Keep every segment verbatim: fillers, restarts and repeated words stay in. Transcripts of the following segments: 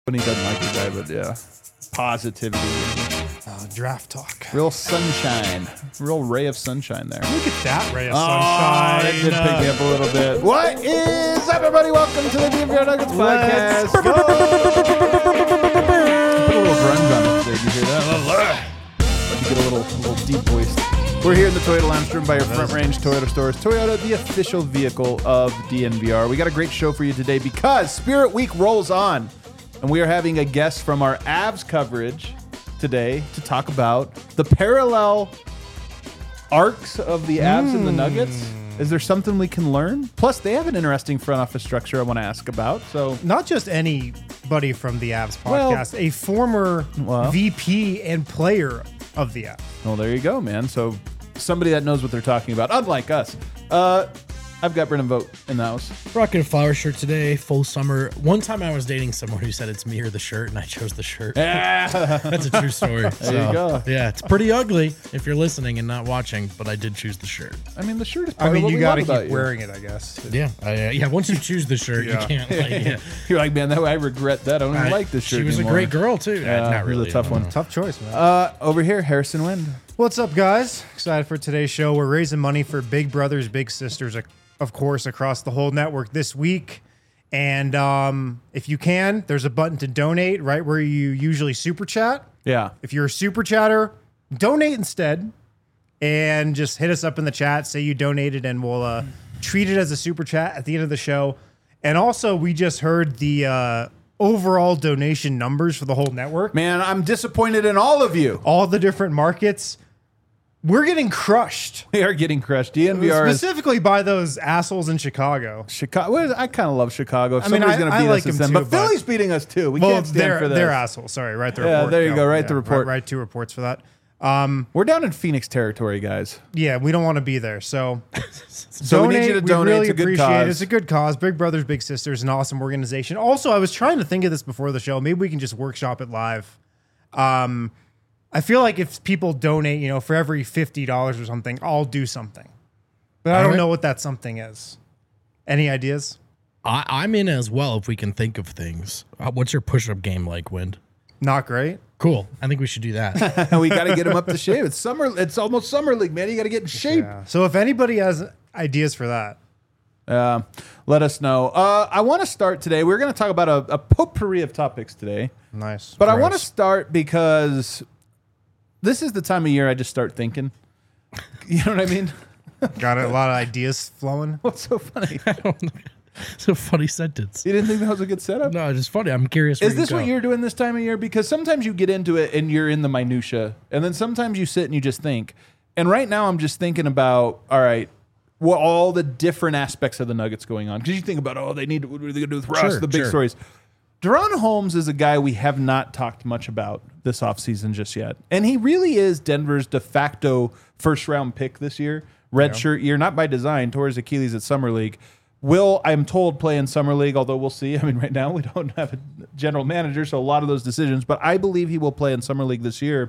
When he doesn't like the guy, but yeah, positivity, uh, draft talk, real sunshine, real ray of sunshine there. Look at that ray of oh, sunshine. That did pick me up a little bit. What is up, everybody? Welcome to the D N V R Nuggets podcast. Put a little grunge on it today. Did you hear that? Let me get a little, a little deep voice. We're here in the Toyota Lounge room by your Front Range Toyota stores. Toyota, the official vehicle of D N V R. We got a great show for you today because Spirit Week rolls on. And we are having a guest from our Avs coverage today to talk about the parallel arcs of the Avs mm. and the Nuggets. Is there something we can learn? Plus, they have an interesting front office structure I want to ask about. So, not just anybody from the Avs podcast, well, a former well, V P and player of the Avs. Well, there you go, man. So, somebody that knows what they're talking about, unlike us. Uh, I've got Brennan Vogt in the house. Rocking a flower shirt today, full summer. One time I was dating someone who said it's me or the shirt, and I chose the shirt. Yeah. That's a true story. There so, you go. Yeah, it's pretty ugly if you're listening and not watching, but I did choose the shirt. I mean, the shirt is part I mean, of what you we got to love keep about wearing you. it, I guess. Yeah, I, uh, yeah. Once you choose the shirt, yeah. you can't. Like, yeah. You're like, man, that way I regret that. I don't even I, like this shirt She was anymore. a great girl, too. Yeah, uh, not really. It was a tough one. Tough choice, man. Uh, over here, Harrison Wind. What's up, guys? Excited for today's show. We're raising money for Big Brothers Big Sisters, of course, across the whole network this week. And um, if you can, there's a button to donate right where you usually super chat. Yeah. If you're a super chatter, donate instead and just hit us up in the chat, say you donated, and we'll uh, treat it as a super chat at the end of the show. And also, we just heard the uh, overall donation numbers for the whole network. Man, I'm disappointed in all of you. All the different markets. We're getting crushed. We are getting crushed. D N V R specifically is, by those assholes in Chicago. Chicago. Well, I kind of love Chicago. If I mean, somebody's I, going to beat I like us, it's them them. too, But Philly's beating us too. We well, can't stand they're, for this. They're assholes. Sorry, write the yeah, report. there you go. go. Write yeah, the report. Write, write two reports for that. Um, We're down in Phoenix territory, guys. Yeah, we don't want to be there. So, so donate, we need you to donate. We really it's a good appreciate cause. it. It's a good cause. Big Brothers Big Sisters, an awesome organization. Also, I was trying to think of this before the show. Maybe we can just workshop it live. Um, I feel like if people donate, you know, for every fifty dollars or something, I'll do something. But I don't know what that something is. Any ideas? I, I'm in as well if we can think of things. Uh, what's your push-up game like, Wind? Not great. Cool. I think we should do that. We got to get him up to shape. It's summer. It's almost summer league, man. You got to get in shape. Yeah. So if anybody has ideas for that, uh, let us know. Uh, I want to start today. We're going to talk about a, a potpourri of topics today. Nice. But Gross. I want to start because this is the time of year I just start thinking. You know what I mean? Got a lot of ideas flowing. What's so funny? I don't know. It's a funny sentence. You didn't think that was a good setup? No, it's just funny. I'm curious. Is this what you're doing this time of year? Because sometimes you get into it and you're in the minutia, and then sometimes you sit and you just think. And right now I'm just thinking about, all right, what all the different aspects of the Nuggets going on. Because you think about, oh, they need to, what are they going to do with Russ? Sure, the big sure. stories. De'Ron Holmes is a guy we have not talked much about this offseason just yet. And he really is Denver's de facto first-round pick this year. Red yeah. shirt year, not by design, tore his Achilles at Summer League. Will, I'm told, play in Summer League, although we'll see. I mean, right now we don't have a general manager, so a lot of those decisions. But I believe he will play in Summer League this year.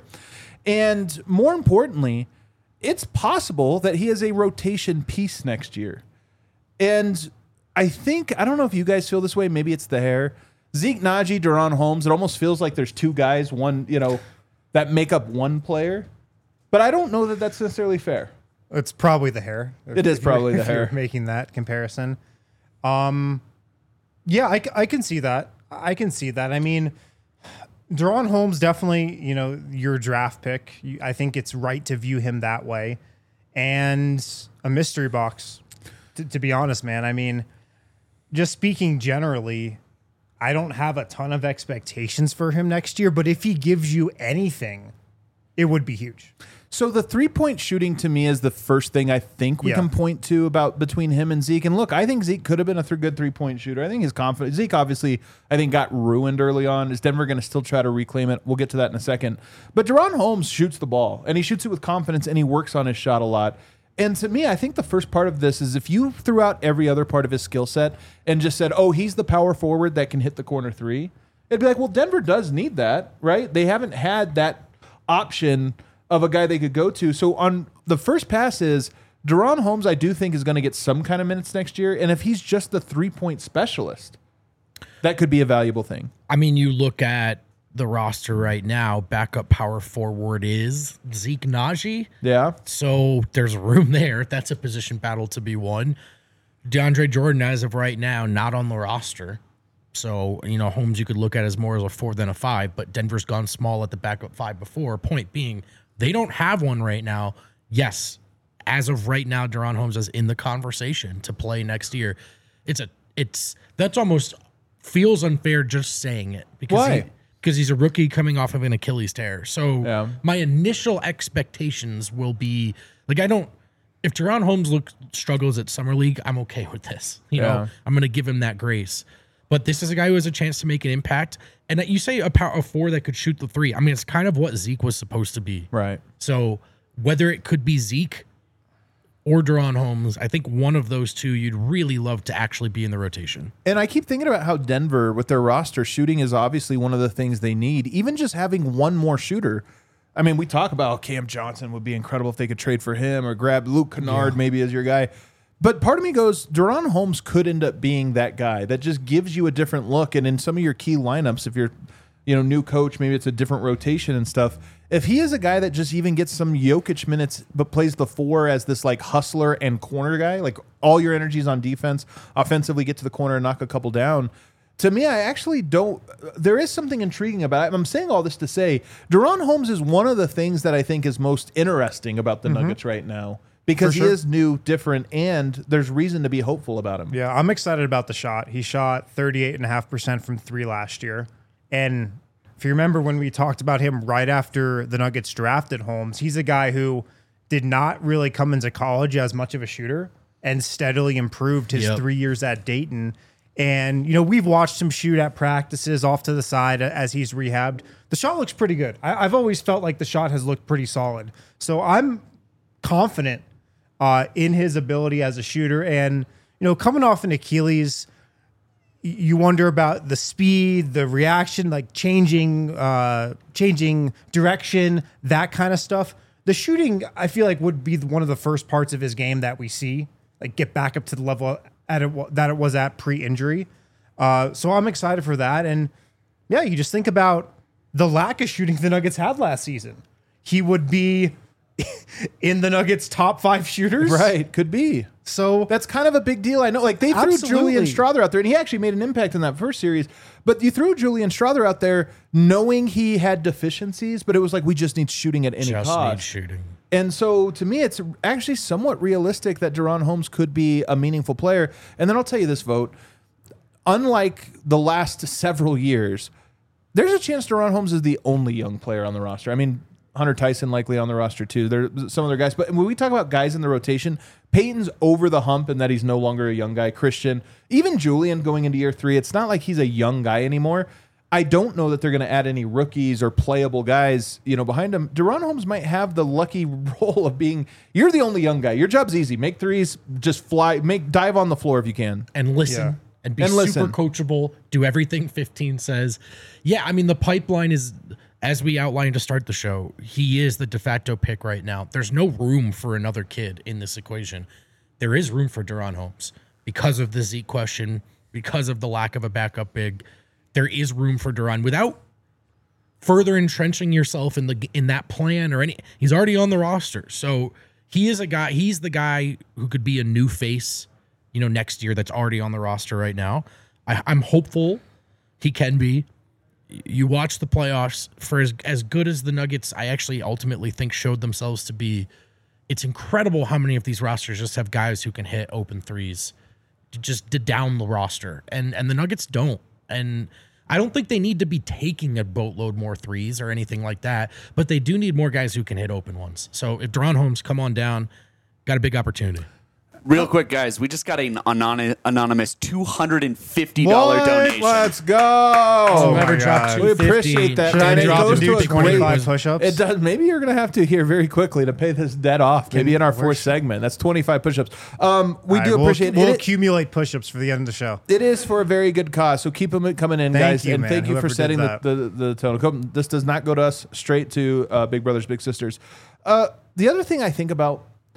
And more importantly, it's possible that he is a rotation piece next year. And I think, I don't know if you guys feel this way. Maybe it's the hair. Zeke Naji, De'Ron Holmes, it almost feels like there's two guys, one, you know, that make up one player. But I don't know that that's necessarily fair. It's probably the hair. It is probably the if hair. You're making that comparison. Um, yeah, I, I can see that. I can see that. I mean, De'Ron Holmes, definitely, you know, your draft pick. You, I think it's right to view him that way. And a mystery box, to, to be honest, man. I mean, just speaking generally, I don't have a ton of expectations for him next year, but if he gives you anything, it would be huge. So the three-point shooting to me is the first thing I think we yeah. can point to about between him and Zeke. And look, I think Zeke could have been a th- good three-point shooter. I think his confidence. Zeke obviously, I think, got ruined early on. Is Denver going to still try to reclaim it? We'll get to that in a second. But De'Ron Holmes shoots the ball, and he shoots it with confidence, and he works on his shot a lot. And to me, I think the first part of this is if you threw out every other part of his skill set and just said, oh, he's the power forward that can hit the corner three, it'd be like, well, Denver does need that, right? They haven't had that option of a guy they could go to. So on the first pass is De'Ron Holmes, I do think is going to get some kind of minutes next year. And if he's just the three-point specialist, that could be a valuable thing. I mean, you look at the roster right now, backup power forward is Zeke Najee. Yeah. So there's room there. That's a position battle to be won. DeAndre Jordan, as of right now, not on the roster. So, you know, Holmes you could look at as more as a four than a five, but Denver's gone small at the backup five before. Point being, they don't have one right now. Yes, as of right now, Deron Holmes is in the conversation to play next year. It's a, it's, that's almost feels unfair just saying it. Because Why? He, because he's a rookie coming off of an Achilles tear. So yeah. my initial expectations will be, like, I don't, if Deron Holmes look, struggles at Summer League, I'm okay with this. You Yeah. know, I'm going to give him that grace. But this is a guy who has a chance to make an impact. And that you say a power a four that could shoot the three. I mean, it's kind of what Zeke was supposed to be. Right. So whether it could be Zeke or Deron Holmes, I think one of those two you'd really love to actually be in the rotation. And I keep thinking about how Denver, with their roster, shooting is obviously one of the things they need. Even just having one more shooter. I mean, we talk about Cam Johnson would be incredible if they could trade for him or grab Luke Kennard Yeah. maybe as your guy. But part of me goes, Deron Holmes could end up being that guy that just gives you a different look. And in some of your key lineups, if you're, you know, new coach, maybe it's a different rotation and stuff. If he is a guy that just even gets some Jokic minutes, but plays the four as this like hustler and corner guy, like all your energies on defense, offensively get to the corner and knock a couple down. To me, I actually don't. There is something intriguing about it. I'm saying all this to say, Deron Holmes is one of the things that I think is most interesting about the mm-hmm. Nuggets right now. Because sure. he is new, different, and there's reason to be hopeful about him. Yeah, I'm excited about the shot. He shot thirty-eight point five percent from three last year. And if you remember when we talked about him right after the Nuggets drafted Holmes, he's a guy who did not really come into college as much of a shooter and steadily improved his yep. three years at Dayton. And, you know, we've watched him shoot at practices off to the side as he's rehabbed. The shot looks pretty good. I, I've always felt like the shot has looked pretty solid. So I'm confident Uh, in his ability as a shooter. And, you know, coming off an Achilles, you wonder about the speed, the reaction, like changing, uh, changing direction, that kind of stuff. The shooting, I feel like, would be one of the first parts of his game that we see, like get back up to the level at it, that it was at pre-injury. Uh, so I'm excited for that. And yeah, you just think about the lack of shooting the Nuggets had last season. He would be in the Nuggets' top five shooters. Right, could be. So that's kind of a big deal. I know, like they absolutely. threw Julian Strawther out there, and he actually made an impact in that first series. But you threw Julian Strawther out there knowing he had deficiencies, but it was like, we just need shooting at any just cost. Need shooting. And so to me, it's actually somewhat realistic that Deron Holmes could be a meaningful player. And then I'll tell you this, Vogt. Unlike the last several years, there's a chance Deron Holmes is the only young player on the roster. I mean, Hunter Tyson likely on the roster too. There are some other guys. But when we talk about guys in the rotation, Peyton's over the hump in that he's no longer a young guy. Christian, even Julian going into year three, it's not like he's a young guy anymore. I don't know that they're going to add any rookies or playable guys, you know, behind him. Deron Holmes might have the lucky role of being, you're the only young guy. Your job's easy. Make threes, just fly, make dive on the floor if you can. And listen. Yeah. And be and super listen. coachable. Do everything fifteen says. Yeah, I mean, the pipeline is, as we outlined to start the show, he is the de facto pick right now. There's no room for another kid in this equation. There is room for Deron Holmes because of the Zeke question, because of the lack of a backup big. There is room for Deron without further entrenching yourself in the in that plan or any. He's already on the roster, so he is a guy. He's the guy who could be a new face, you know, next year. That's already on the roster right now. I, I'm hopeful he can be. You watch the playoffs for as as good as the Nuggets, I actually ultimately think showed themselves to be. It's incredible how many of these rosters just have guys who can hit open threes, just to down the roster, and and the Nuggets don't. And I don't think they need to be taking a boatload more threes or anything like that, but they do need more guys who can hit open ones. So if Deron Holmes, come on down, got a big opportunity. Real quick, guys, we just got an anon- anonymous two hundred fifty dollars what? donation. Let's go. Oh Whoever my dropped God. two We fifty, appreciate that. Should I And it drop goes and to do a twenty-five great- push-ups? It does. Maybe you're going to have to here very quickly to pay this debt off. Maybe in our fourth Where's- segment. That's twenty-five push-ups. Um, we All do right, we'll- appreciate We'll it. accumulate push-ups for the end of the show. It is for a very good cause, so keep them coming in, Thank guys. you, and man, thank you whoever for did setting the, that. the, the tone. This does not go to us, straight to uh, Big Brothers Big Sisters. Uh, the other thing I think about,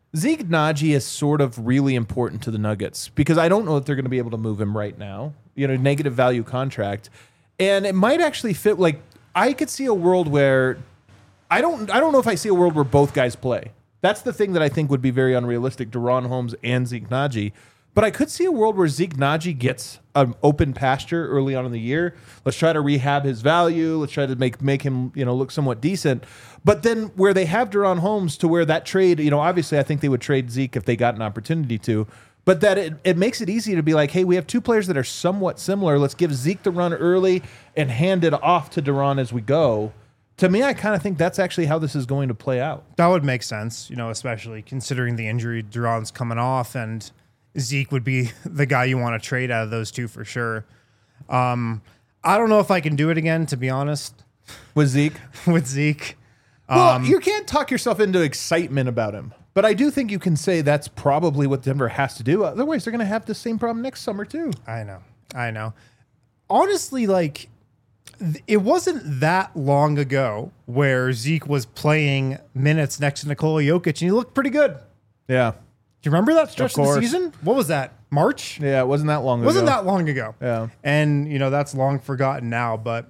Zeke Naji is sort of really important to the Nuggets because I don't know that they're going to be able to move him right now. You know, negative value contract. And it might actually fit. Like, I could see a world where I don't I don't know if I see a world where both guys play. That's the thing that I think would be very unrealistic, DeRon Holmes and Zeke Naji. But I could see a world where Zeke Naji gets an open pasture early on in the year. Let's try to rehab his value. Let's try to make make him, you know, look somewhat decent. But then where they have DeRon Holmes to where that trade, you know, obviously I think they would trade Zeke if they got an opportunity to. But that it, it makes it easy to be like, hey, we have two players that are somewhat similar. Let's give Zeke the run early and hand it off to DeRon as we go. To me, I kind of think that's actually how this is going to play out. That would make sense, you know, especially considering the injury DeRon's coming off and Zeke would be the guy you want to trade out of those two for sure. Um, I don't know if I can do it again, to be honest, With Zeke? with Zeke. Well, Um, you can't talk yourself into excitement about him. But I do think you can say that's probably what Denver has to do. Otherwise, they're going to have the same problem next summer, too. I know. I know. Honestly, like, th- it wasn't that long ago where Zeke was playing minutes next to Nikola Jokic and he looked pretty good. Do Yeah. you remember that stretch of, the course. season? What was that? March? Yeah, it wasn't that long Wasn't ago. that long ago. Yeah. And, you know, that's long forgotten now. But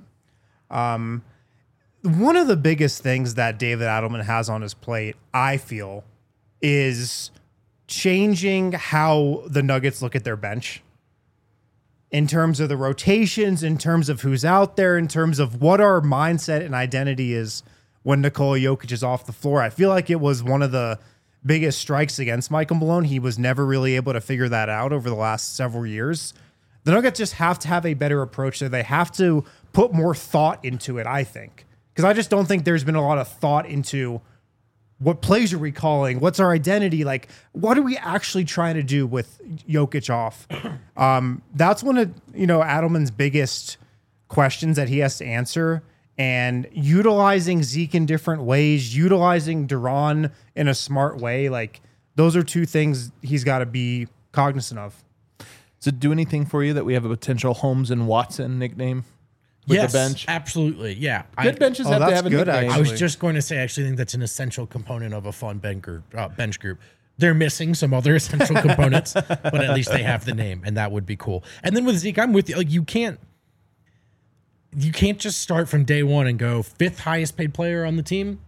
um, one of the biggest things that David Adelman has on his plate, I feel, is changing how the Nuggets look at their bench in terms of the rotations, in terms of who's out there, in terms of what our mindset and identity is when Nikola Jokic is off the floor. I feel like it was one of the biggest strikes against Michael Malone. He was never really able to figure that out over the last several years. The Nuggets just have to have a better approach there. They have to put more thought into it, I think. Because I just don't think there's been a lot of thought into what plays are we calling? What's our identity? Like, what are we actually trying to do with Jokic off? Um, that's one of, you know, Adelman's biggest questions that he has to answer. And utilizing Zeke in different ways, utilizing DeRon in a smart way, like, those are two things he's got to be cognizant of. Does it do anything for you that we have a potential Holmes and Watson nickname with yes, the bench? absolutely. Yeah. Good I, benches Oh, have to that's have a good, nickname. I was actually. just going to say, I actually think that's an essential component of a fun bench group. Uh, bench group. They're missing some other essential components, but at least they have the name, and that would be cool. And then with Zeke, I'm with you. Like, you can't, you can't just start from day one and go fifth highest paid player on the team.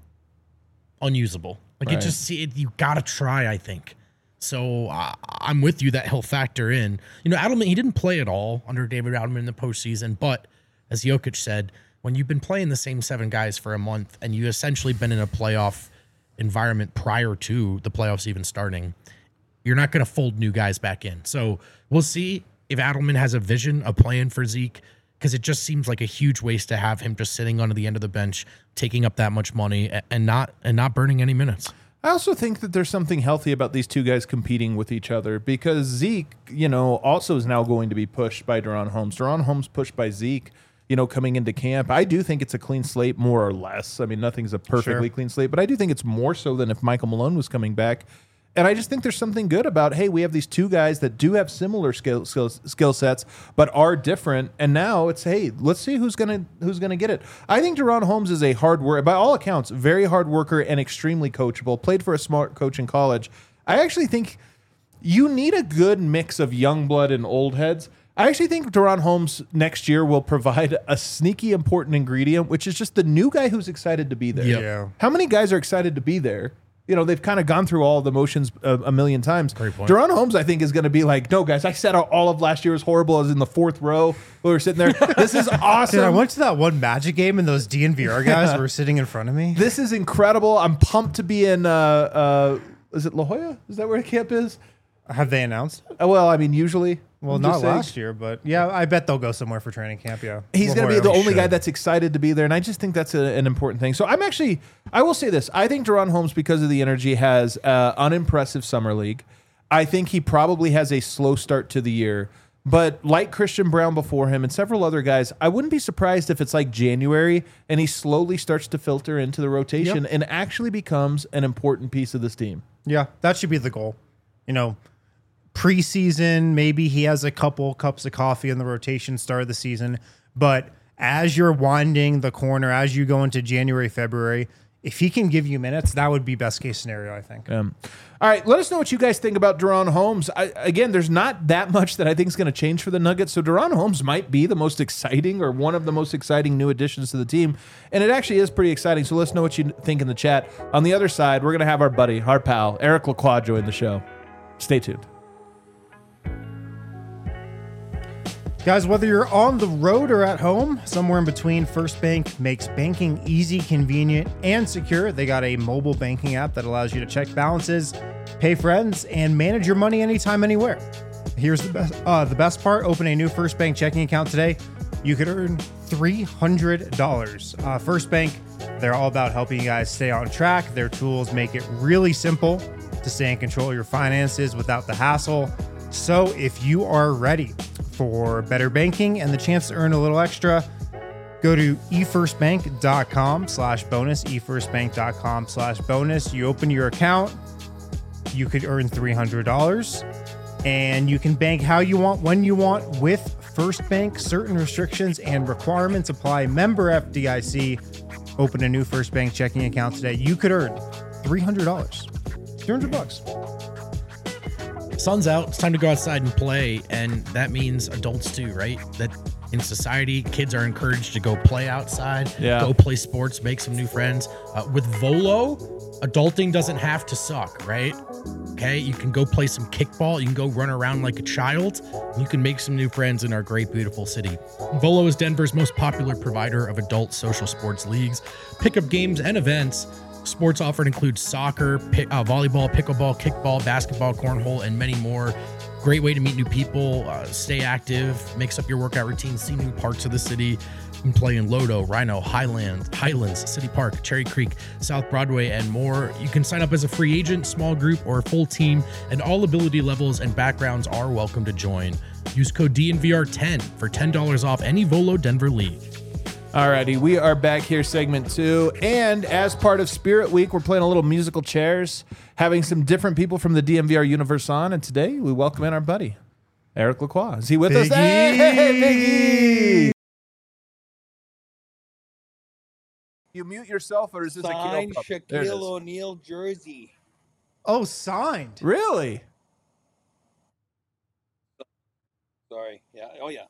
Unusable. Like Right. it just, it, you got to try. I think. So uh, I'm with you that he'll factor in. You know, Adelman, he didn't play at all under David Adelman in the postseason, but as Jokic said, when you've been playing the same seven guys for a month and you essentially been in a playoff environment prior to the playoffs even starting, you're not going to fold new guys back in. So we'll see if Adelman has a vision of playing for Zeke, because it just seems like a huge waste to have him just sitting on the end of the bench, taking up that much money a- and not and not burning any minutes. I also think that there's something healthy about these two guys competing with each other because Zeke, you know, also is now going to be pushed by DeRon Holmes. DeRon Holmes pushed by Zeke, you know, coming into camp. I do think it's a clean slate, more or less. I mean, nothing's a perfectly Sure. clean slate, but I do think it's more so than if Michael Malone was coming back. And I just think there's something good about, hey, we have these two guys that do have similar skill skill, skill sets, but are different. And now it's, hey, let's see who's gonna who's gonna get it. I think DeRon Holmes is a hard worker, by all accounts, very hard worker and extremely coachable. Played for a smart coach in college. I actually think you need a good mix of young blood and old heads. I actually think DeRon Holmes next year will provide a sneaky important ingredient, which is just the new guy who's excited to be there. Yep. Yeah. How many guys are excited to be there? You know, they've kind of gone through all the motions a, a million times. Great point. DeRon Holmes, I think, is going to be like, no, guys, I said all of last year was horrible. I was in the fourth row. We were sitting there. This is awesome. Dude, I went to that one Magic game and those D N V R guys were sitting in front of me. This is incredible. I'm pumped to be in, uh, uh, is it La Jolla? Is that where the camp is? Have they announced? Uh, well, I mean, usually. Well, I'm not just saying. last year, but yeah, I bet they'll go somewhere for training camp. Yeah, He's La going to be Jolla. the only guy should. that's excited to be there, and I just think that's a, an important thing. So I'm actually, I will say this: I think DeRon Holmes, because of the energy, has uh, unimpressive summer league. I think he probably has a slow start to the year, but like Christian Brown before him and several other guys, I wouldn't be surprised if it's like January and he slowly starts to filter into the rotation Yep. and actually becomes an important piece of this team. Yeah, that should be the goal. You know, preseason, maybe he has a couple cups of coffee in the rotation start of the season. But as you're winding the corner, as you go into January, February, if he can give you minutes, that would be best case scenario, I think. Um, all right, let us know what you guys think about De'Ron Holmes. I, again, there's not that much that I think is going to change for the Nuggets, so De'Ron Holmes might be the most exciting or one of the most exciting new additions to the team, and it actually is pretty exciting, so let us know what you think in the chat. On the other side, we're going to have our buddy, our pal, Eric Lacroix join the show. Stay tuned. Guys, whether you're on the road or at home, somewhere in between, First Bank makes banking easy, convenient, and secure. They got a mobile banking app that allows you to check balances, pay friends, and manage your money anytime, anywhere. Here's the best, uh, the best part. Open a new First Bank checking account today. You could earn three hundred dollars. Uh, First Bank, they're all about helping you guys stay on track. Their tools make it really simple to stay in control of your finances without the hassle. So if you are ready for better banking and the chance to earn a little extra, go to efirstbank.com slash bonus, efirstbank.com slash bonus. You open your account, you could earn three hundred dollars, and you can bank how you want, when you want with First Bank. Certain restrictions and requirements apply. Member F D I C. Open a new First Bank checking account today. You could earn three hundred dollars. three hundred bucks. Sun's out. It's time to go outside and play, and that means adults too, right? That in society, kids are encouraged to go play outside, Yeah. go play sports, make some new friends. Uh, with Volo, adulting doesn't have to suck, right? Okay, you can go play some kickball. You can go run around like a child. You can make some new friends in our great, beautiful city. Volo is Denver's most popular provider of adult social sports leagues, pickup games, and events. Sports offered include soccer, pick, uh, volleyball, pickleball, kickball, basketball, cornhole, and many more. Great way to meet new people, uh, stay active, mix up your workout routine, see new parts of the city. You can play in Lodo, Rhino, Highlands, Highlands, City Park, Cherry Creek, South Broadway, and more. You can sign up as a free agent, small group, or a full team, and all ability levels and backgrounds are welcome to join. Use code D N V R ten for ten dollars off any Volo Denver league. Alrighty, we are back here, segment two, and as part of Spirit Week, we're playing a little musical chairs, having some different people from the D M V R universe on, and today we welcome in our buddy, Eric Lacroix. Is he with us? Biggie! Hey, Biggie! You mute yourself, or is this Signed a Kale pup? There it is. Shaquille O'Neal jersey. Oh, signed. Really? Sorry. Yeah. Oh, yeah.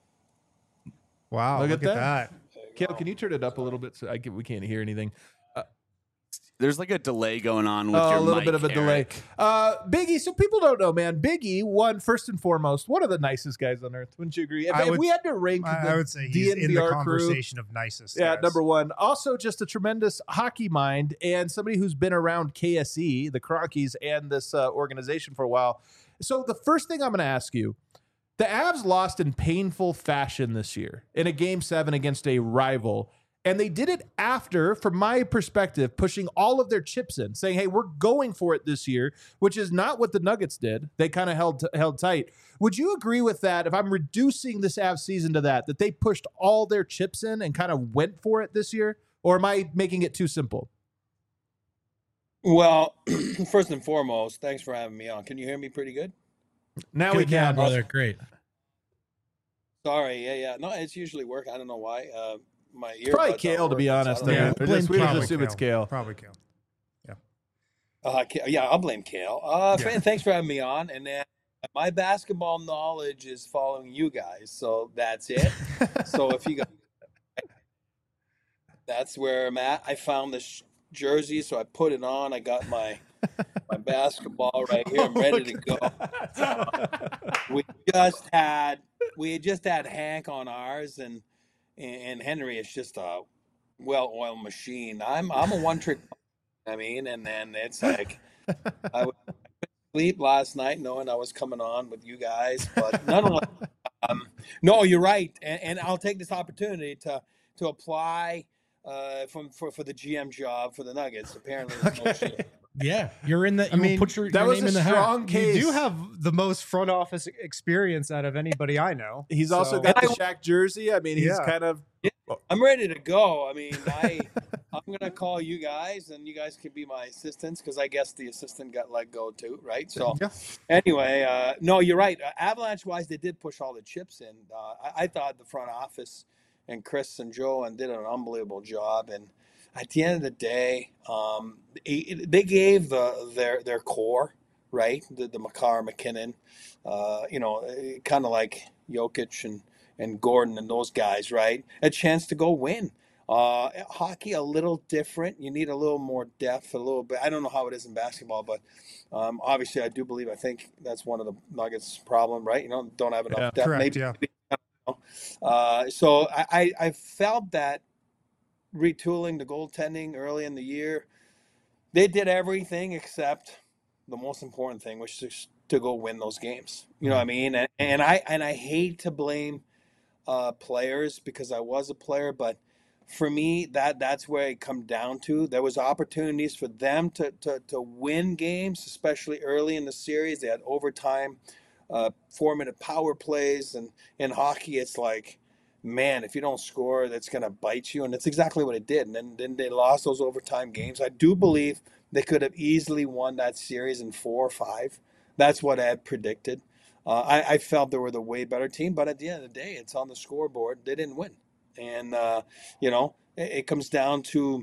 Wow, Look look, at at that. that. There you Kale, go. can you turn it up a little bit so I can, we can't hear anything? There's like a delay going on with Oh, your a little mic, bit of a delay. Eric. Uh, Biggie, so people don't know, man. Biggie, one, first and foremost, one of the nicest guys on earth. Wouldn't you agree? If, I if would- we had to rank I, the I would say he's in the D N V R crew, conversation of nicest. yeah, guys. number one. Also, just a tremendous hockey mind and somebody who's been around K S E, the Cronkies, and this uh, organization for a while. So the first thing I'm going to ask you, the Avs lost in painful fashion this year in a game seven against a rival. And they did it after, from my perspective, pushing all of their chips in, saying, hey, we're going for it this year, which is not what the Nuggets did. They kind of held held tight. Would you agree with that, if I'm reducing this Avs season to that, that they pushed all their chips in and kind of went for it this year? Or am I making it too simple? Well, first and foremost, thanks for having me on. Can you hear me pretty good? Now we Good now, can. brother. Great. Sorry. Yeah, yeah. No, it's usually work. I don't know why. Uh, my ear. Probably Kale, to be honest. So I Yeah, don't know. we'll just, we just Probably assume it's Kale. Probably Kale. Uh, Ka- yeah, I'll blame Kale. Uh, Yeah. and thanks for having me on. And then my basketball knowledge is following you guys, so that's it. So if you guys, that's where I'm at. I found this jersey, so I put it on. I got my my basketball right here. I'm ready to go. We just had we had just had Hank on ours, and and Henry is just a well-oiled machine. I'm I'm a one-trick. I mean, and then it's like I would sleep last night knowing I was coming on with you guys, but nonetheless, um, no, you're right, and, and I'll take this opportunity to to apply uh, from for, for the G M job for the Nuggets. Apparently, there's no shit. Yeah, you're in the. You I mean, put your, That your was name a in the hat. strong case. You do have the most front office experience out of anybody I know. He's also So- got the Shaq jersey. I mean, he's Yeah. kind of. I'm ready to go. I mean, I I'm gonna call you guys, and you guys can be my assistants because I guess the assistant got let go too, right? So Yeah. anyway, uh, no, you're right. Uh, Avalanche wise, they did push all the chips in. Uh, I, I thought the front office and Chris and Joe and did an unbelievable job, and at the end of the day, um, it, they gave the their their core, right, the the Makar, McKinnon, uh, you know, kind of like Jokic and and Gordon and those guys, right, a chance to go win. Uh, hockey a little different. You need a little more depth, a little bit. I don't know how it is in basketball, but um, obviously I do believe. I think that's one of the Nuggets' problem, right? You know, don't have enough Yeah. depth. Correct, Maybe, yeah. maybe, I don't know. Uh, so I, I I felt that retooling the goaltending early in the year, they did everything except the most important thing, which is to go win those games. You know what I mean? And, and I and I hate to blame uh, players because I was a player, but for me, that that's where it come down to. There was opportunities for them to to to win games, especially early in the series. They had overtime, uh, four minute power plays, and in hockey, it's like, man, if you don't score, that's gonna bite you, and that's exactly what it did. And then then they lost those overtime games. I do believe they could have easily won that series in four or five. That's what I had predicted. Uh, I, I felt they were the way better team, but at the end of the day, it's on the scoreboard. They didn't win. And, uh, you know, it, it comes down to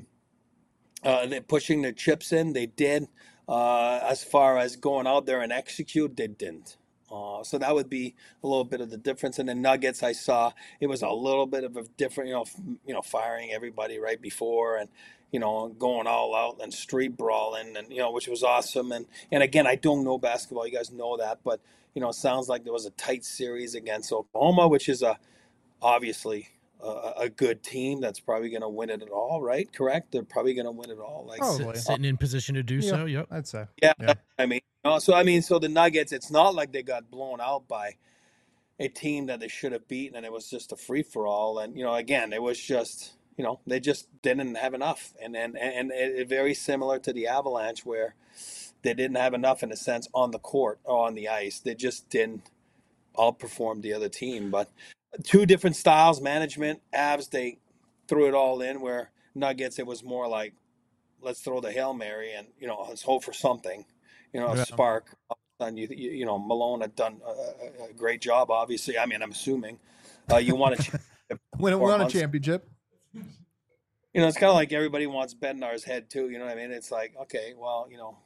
uh, they pushing the chips in. They did. Uh, as far as going out there and execute, they didn't. Uh, so that would be a little bit of the difference. And the Nuggets, I saw it was a little bit of a different, you know, f- you know, firing everybody right before and, you know, going all out and street brawling and, you know, which was awesome. And, and again, I don't know basketball. You guys know that. But, you know, it sounds like there was a tight series against Oklahoma, which is a obviously a, a good team that's probably going to win it all, right? Correct? They're probably going to win it all. Like, Probably. Sit- sitting in position to do so. Yep. I'd say. yeah, Yeah. I mean, you know, so I mean, so the Nuggets, it's not like they got blown out by a team that they should have beaten, and it was just a free for all. And you know, again, it was just, you know, they just didn't have enough, and and and it, very similar to the Avalanche, where they didn't have enough in a sense on the court or on the ice. They just didn't outperform the other team. But two different styles, management. Avs, they threw it all in. Where Nuggets, it was more like, let's throw the Hail Mary and, you know, let's hope for something, you know, a Yeah. spark. And you, you, you know, Malone had done a, a great job, obviously. I mean, I'm assuming uh, you want to When we four won a months. championship. You know, it's kind of like everybody wants Bednar's head too. You know what I mean? It's like, okay, well, you know,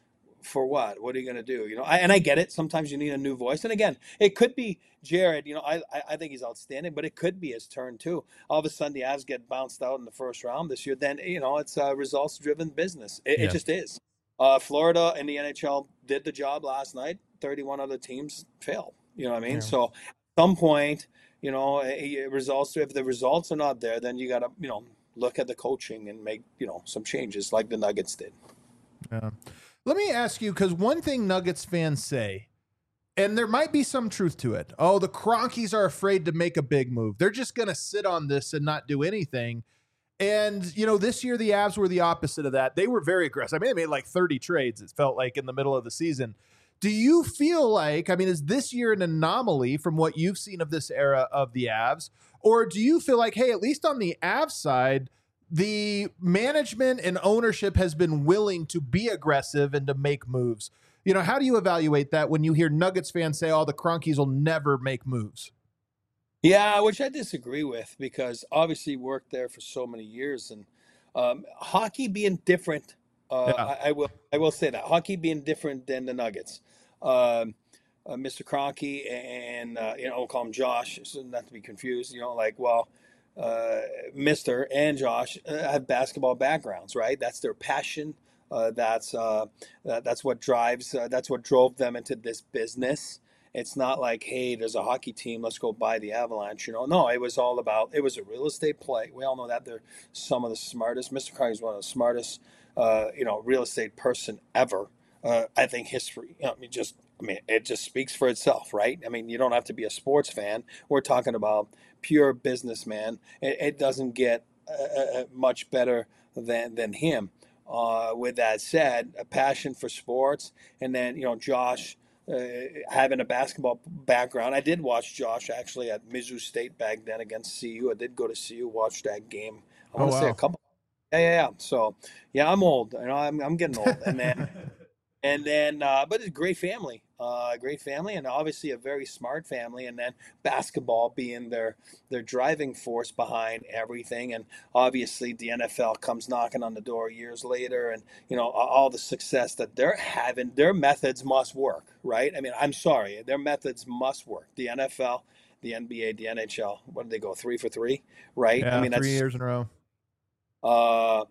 for what? What are you going to do? You know, I, and I get it. Sometimes you need a new voice. And again, it could be Jared. You know, I, I I think he's outstanding, but it could be his turn too. All of a sudden, the Avs get bounced out in the first round this year. Then, you know, it's a results-driven business. It, Yeah. it just is. Uh, Florida and the N H L did the job last night. thirty-one other teams failed. You know what I mean? Yeah. So at some point, you know, it, it results. If the results are not there, then you got to, you know, look at the coaching and make, you know, some changes like the Nuggets did. Yeah. Let me ask you, because one thing Nuggets fans say, and there might be some truth to it. Oh, the Cronkies are afraid to make a big move. They're just going to sit on this and not do anything. And, you know, this year the Avs were the opposite of that. They were very aggressive. I mean, they made like thirty trades, it felt like, in the middle of the season. Do you feel like, I mean, is this year an anomaly from what you've seen of this era of the Avs? Or do you feel like, hey, at least on the Avs side, the management and ownership has been willing to be aggressive and to make moves? You know, how do you evaluate that when you hear Nuggets fans say, oh, the Cronkies will never make moves? Yeah, which I disagree with because obviously worked there for so many years, and um, hockey being different. Uh, Yeah. I, I will I will say that hockey being different than the Nuggets. Um, uh, Mister Kroenke and uh, you know, I'll call him Josh, so not to be confused. You know, like well, uh, Mister and Josh uh, have basketball backgrounds, right? That's their passion. Uh, that's uh, that, that's what drives. Uh, that's what drove them into this business. It's not like, hey, there's a hockey team, let's go buy the Avalanche. You know, no, it was all about, it was a real estate play. We all know that they're some of the smartest. Mister Carney is one of the smartest, uh, you know, real estate person ever. Uh, I think history, you know, I mean, just, I mean, it just speaks for itself, right? I mean, you don't have to be a sports fan. We're talking about pure businessman. It, it doesn't get uh, uh, much better than than him. Uh, with that said, a passion for sports, and then you know, Josh. Uh, having a basketball background, I did watch Josh actually at Mizzou State back then against C U. I did go to C U, watch that game. I want to Oh, say wow. a couple. Yeah, yeah, yeah. So, yeah, I'm old. You know, I'm I'm getting old, and then and then, uh, but it's a great family. uh, a great family, and obviously a very smart family. And then basketball being their their driving force behind everything. And obviously the N F L comes knocking on the door years later, and you know all the success that they're having. Their methods must work, right? I mean, I'm sorry, their methods must work. The N F L, the N B A, the N H L. What did they go three for three, right? Yeah, I mean, that's three years in a row. uh,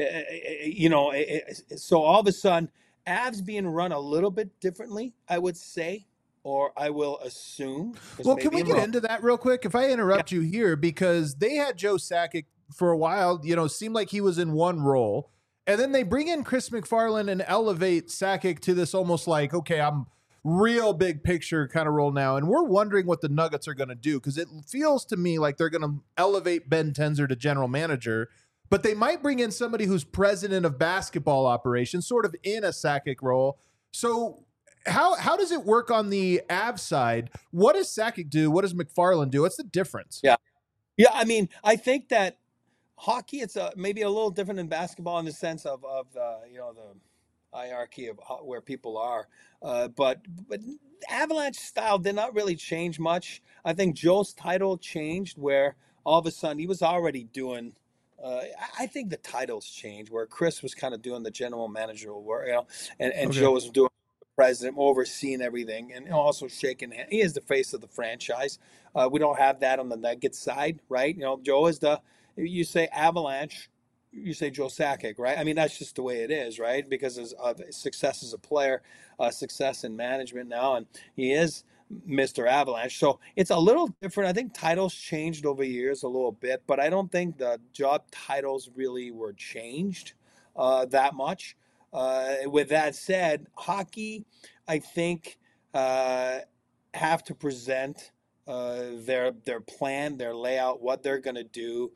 you know, so all of a sudden, Avs being run a little bit differently, I would say, or I will assume. 'cause Well, can we maybe I'm get wrong. into that real quick? If I interrupt you here, because they had Joe Sakic for a while, you know, seemed like he was in one role. And then they bring in Chris McFarland and elevate Sakic to this almost like, okay, I'm real big picture kind of role now. And we're wondering what the Nuggets are going to do, because it feels to me like they're going to elevate Ben Tenzer to general manager, but they might bring in somebody who's president of basketball operations, sort of in a Sakic role. So how how does it work on the Avs side? What does Sakic do? What does McFarland do? What's the difference? Yeah. Yeah, I mean, I think that hockey, it's a, maybe a little different than basketball in the sense of, of the, you know, the hierarchy of how, where people are. Uh, but but Avalanche style did not really change much. I think Joe's title changed where all of a sudden he was already doing Uh, I think the titles changed where Chris was kind of doing the general manager work, you know, and, and Okay. Joe was doing the president, overseeing everything, and also shaking hands. He is the face of the franchise. Uh, we don't have that on the Nuggets side, right? You know, Joe is the, you say Avalanche, you say Joe Sakic, right? I mean, that's just the way it is, right? Because of success as a player, uh, success in management now, and he is Mister Avalanche. So it's a little different. I think titles changed over years a little bit, but I don't think the job titles really were changed uh, that much. Uh, with that said, hockey, I think, uh, have to present uh, their their plan, their layout, what they're going to do,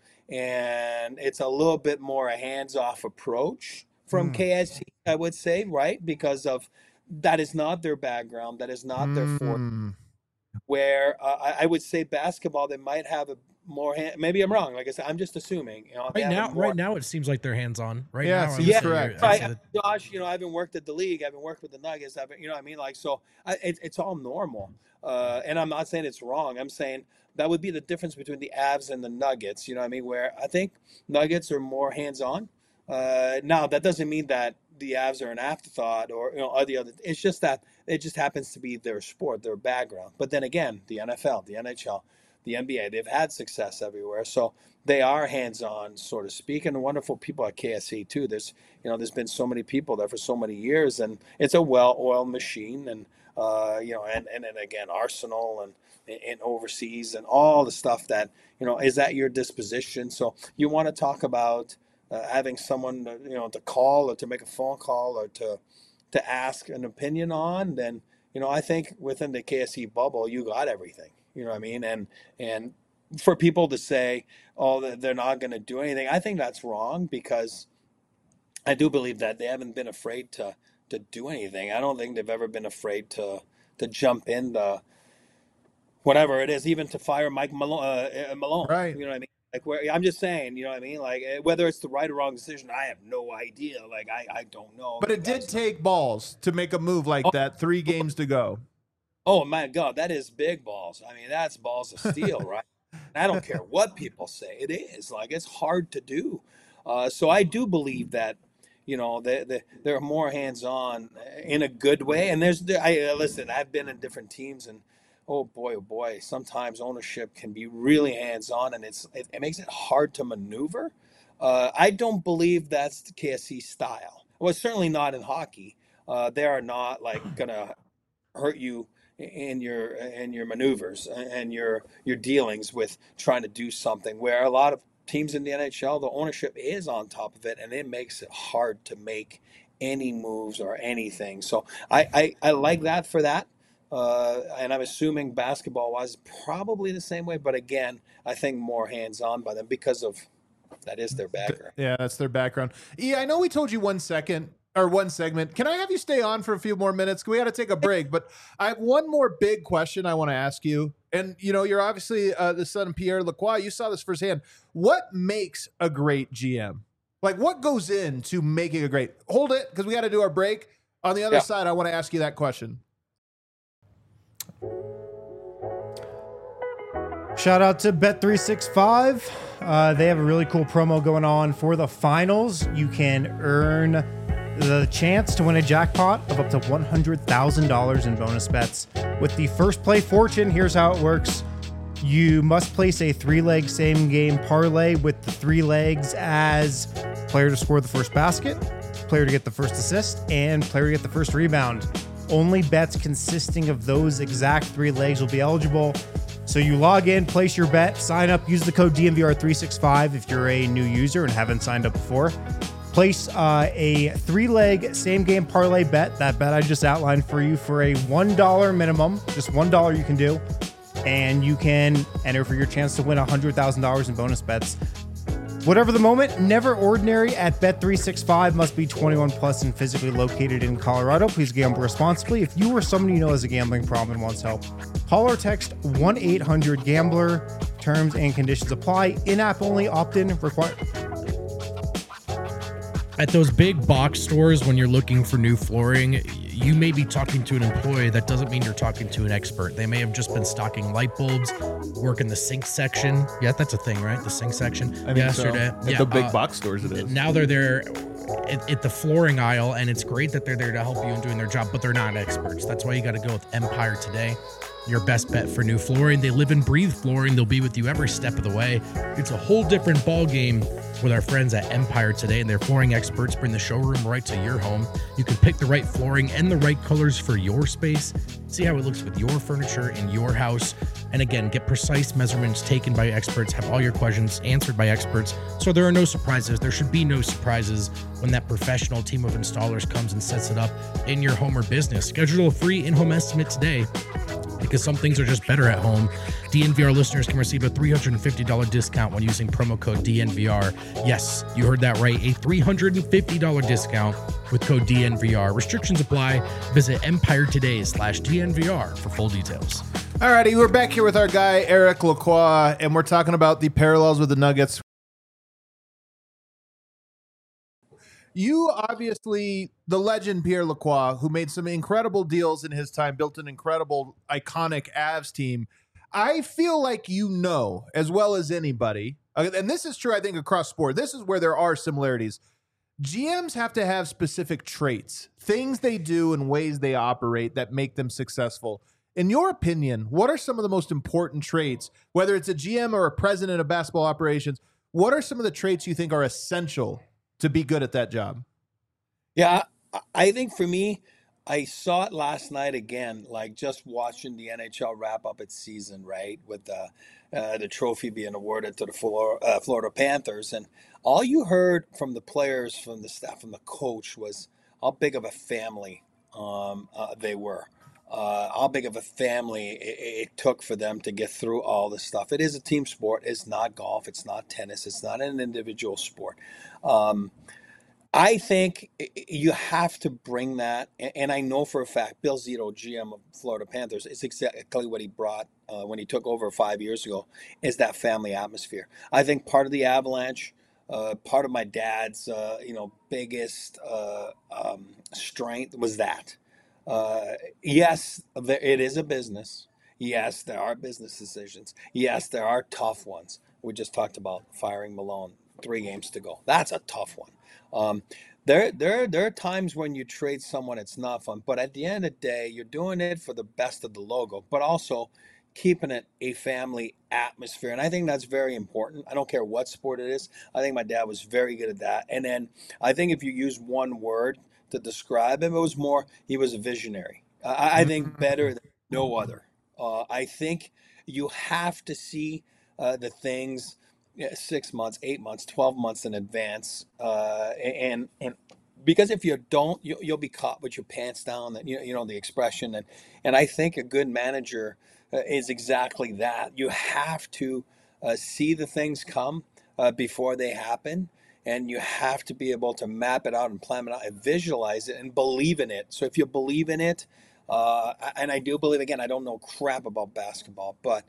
and it's a little bit more a hands-off approach from Mm. K S C, I would say, right? Because of that is not their background, that is not their forte. Mm. Where uh, I, I would say basketball, they might have a more hand. Maybe I'm wrong. Like I said, I'm just assuming. You know, they Right have a now, more- right now, it seems like they're hands on. Right Yeah, it now, I seems would say correct. you're- I'd Right, say that- Josh, you know, I haven't worked at the league. I haven't worked with the Nuggets. I haven't, you know what I mean? Like, so I, it, it's all normal. Uh, and I'm not saying it's wrong. I'm saying that would be the difference between the Avs and the Nuggets. You know what I mean? Where I think Nuggets are more hands-on. Uh, now, that doesn't mean that the Avs are an afterthought or, you know, or the other. It's just that it just happens to be their sport, their background. But then again, the N F L, the N H L, the N B A, they've had success everywhere. So they are hands-on, so to speak, and wonderful people at K S C too. There's, you know, there's been so many people there for so many years, and it's a well-oiled machine. And uh, you know, and, and and again, Arsenal and and overseas and all the stuff that, you know, is at your disposition. So you want to talk about uh, having someone, you know, to call or to make a phone call or to to ask an opinion on, then, you know, I think within the K S C bubble, you got everything. You know what I mean? And and for people to say, oh, they're not going to do anything, I think that's wrong, because I do believe that they haven't been afraid to to do anything. I don't think they've ever been afraid to to jump in the whatever it is, even to fire Mike Malone. Uh, Malone Right. You know what I mean? Like, where I'm just saying, you know what I mean? Like, eh, whether it's the right or wrong decision, I have no idea. Like, I, I don't know. But it did That's- take balls to make a move like Oh. that. Three games to go. Oh my God, that is big balls. I mean, that's balls of steel, right? I don't care what people say. It is like it's hard to do. Uh, so I do believe that, you know, they, they, they're more hands-on in a good way. And there's, I listen, I've been in different teams, and oh boy, oh boy, sometimes ownership can be really hands-on, and it's it, it makes it hard to maneuver. Uh, I don't believe that's the K S C style. Well, it's certainly not in hockey. Uh, they are not like gonna hurt you in your in your maneuvers and your your dealings with trying to do something, where a lot of teams in the N H L, the ownership is on top of it, and it makes it hard to make any moves or anything. So I I, I like that for that, uh, and I'm assuming basketball wise probably the same way, but again, I think more hands on by them because of that is their background. Yeah, that's their background. Yeah, I know we told you one second or one segment. Can I have you stay on for a few more minutes? We got to take a break, but I have one more big question I want to ask you. And, you know, you're obviously uh, the son of Pierre Lacroix. You saw this firsthand. What makes a great G M? Like, what goes into making a great? Hold it, because we got to do our break. On the other Yeah. side, I want to ask you that question. Shout out to Bet three sixty-five. Uh, they have a really cool promo going on for the finals. You can earn the chance to win a jackpot of up to one hundred thousand dollars in bonus bets. With the first play fortune, here's how it works. You must place a three-leg same-game parlay with the three legs as player to score the first basket, player to get the first assist, and player to get the first rebound. Only bets consisting of those exact three legs will be eligible. So you log in, place your bet, sign up, use the code D N V R three sixty-five if you're a new user and haven't signed up before. Place uh, a three-leg same-game parlay bet, that bet I just outlined for you, for a one dollar minimum, just one dollar you can do, and you can enter for your chance to win one hundred thousand dollars in bonus bets. Whatever the moment, never ordinary at Bet three sixty-five. Must be twenty-one plus and physically located in Colorado. Please gamble responsibly. If you or someone you know has a gambling problem and wants help, call or text one eight hundred gambler. Terms and conditions apply. In-app only, opt-in required. At those big box stores, when you're looking for new flooring, you may be talking to an employee. That doesn't mean you're talking to an expert. They may have just been stocking light bulbs, work in the sink section. Yeah, that's a thing, right? The sink section. I mean, Yesterday. so. At yeah, the big uh, box stores it is. Now they're there at, at the flooring aisle, and it's great that they're there to help you in doing their job, but they're not experts. That's why you got to go with Empire Today. Your best bet for new flooring. They live and breathe flooring. They'll be with you every step of the way. It's a whole different ball game with our friends at Empire Today, and their flooring experts bring the showroom right to your home. You can pick the right flooring and the right colors for your space. See how it looks with your furniture in your house. And again, get precise measurements taken by experts, have all your questions answered by experts, so there are no surprises. There should be no surprises when that professional team of installers comes and sets it up in your home or business. Schedule a free in-home estimate today, because some things are just better at home. D N V R listeners can receive a three hundred fifty dollars discount when using promo code D N V R. Yes, you heard that right, a three hundred fifty dollars discount with code D N V R. Restrictions apply. Visit Empire Today slash D N V R for full details. All righty, we're back here with our guy, Eric Lacroix, and we're talking about the parallels with the Nuggets. You obviously, the legend Pierre Lacroix, who made some incredible deals in his time, built an incredible, iconic Avs team. I feel like you know, as well as anybody, and this is true, I think, across sport. This is where there are similarities. G Ms have to have specific traits, things they do and ways they operate that make them successful. In your opinion, what are some of the most important traits, whether it's a G M or a president of basketball operations, what are some of the traits you think are essential to be good at that job? Yeah, I think for me, I saw it last night again, like just watching the N H L wrap up its season, right, with the uh, the trophy being awarded to the Florida, uh, Florida Panthers, and all you heard from the players, from the staff, from the coach was how big of a family um, uh, they were. Uh, how big of a family it, it took for them to get through all this stuff. It is a team sport. It's not golf. It's not tennis. It's not an individual sport. Um, I think you have to bring that, and I know for a fact Bill Zito, G M of Florida Panthers, is exactly what he brought uh, when he took over five years ago, is that family atmosphere. I think part of the Avalanche, uh, part of my dad's, uh, you know, biggest uh, um, strength was that. Uh, yes, there, it is a business. Yes, there are business decisions. Yes, there are tough ones. We just talked about firing Malone, three games to go. That's a tough one. Um, there, there, there are times when you trade someone, it's not fun. But at the end of the day, you're doing it for the best of the logo, but also keeping it a family atmosphere. And I think that's very important. I don't care what sport it is. I think my dad was very good at that. And then I think if you use one word to describe him, it was more, he was a visionary. I, I think better than no other. Uh, I think you have to see uh, the things yeah, six months, eight months, twelve months in advance. Uh, and and because if you don't, you, you'll be caught with your pants down, and you, you know the expression. And, and I think a good manager uh, is exactly that. You have to uh, see the things come uh, before they happen. And you have to be able to map it out and plan it out and visualize it and believe in it. So if you believe in it, uh, and I do believe, again, I don't know crap about basketball, but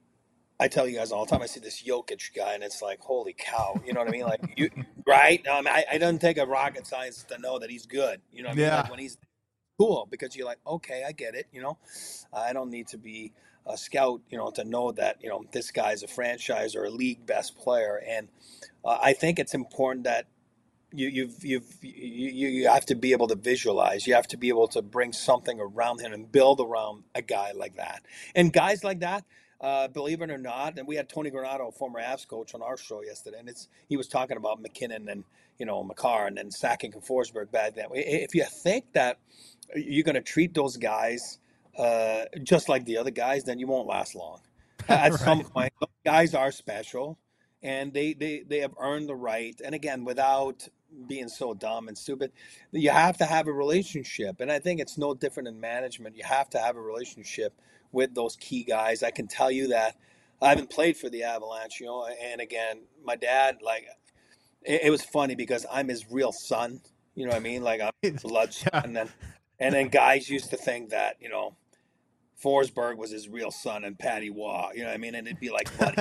I tell you guys all the time, I see this Jokic guy and it's like, holy cow, you know what I mean? Like, you, right? Um, I, I don't take a rocket science to know that he's good. You know what I mean? Yeah. Like when he's cool, because you're like, okay, I get it. You know, I don't need to be a scout, you know, to know that, you know, this guy's a franchise or a league best player. And uh, I think it's important that you you've you've you, you have to be able to visualize. You have to be able to bring something around him and build around a guy like that. And guys like that, uh, believe it or not, and we had Tony Granato, former Avs coach, on our show yesterday, and it's he was talking about McKinnon and, you know, Makar and then Sakic and Forsberg back then. If you think that you're going to treat those guys uh, just like the other guys, then you won't last long. At right. some point, those guys are special, and they, they, they have earned the right. And again, without being so dumb and stupid, you have to have a relationship. And I think it's no different in management. You have to have a relationship with those key guys. I can tell you that I haven't played for the Avalanche, you know, and again, my dad, like, it, it was funny because I'm his real son. You know what I mean? Like, I'm his blood son. Yeah. And then, and then guys used to think that, you know, Forsberg was his real son and Patty Waugh, you know what I mean? And it'd be like, buddy,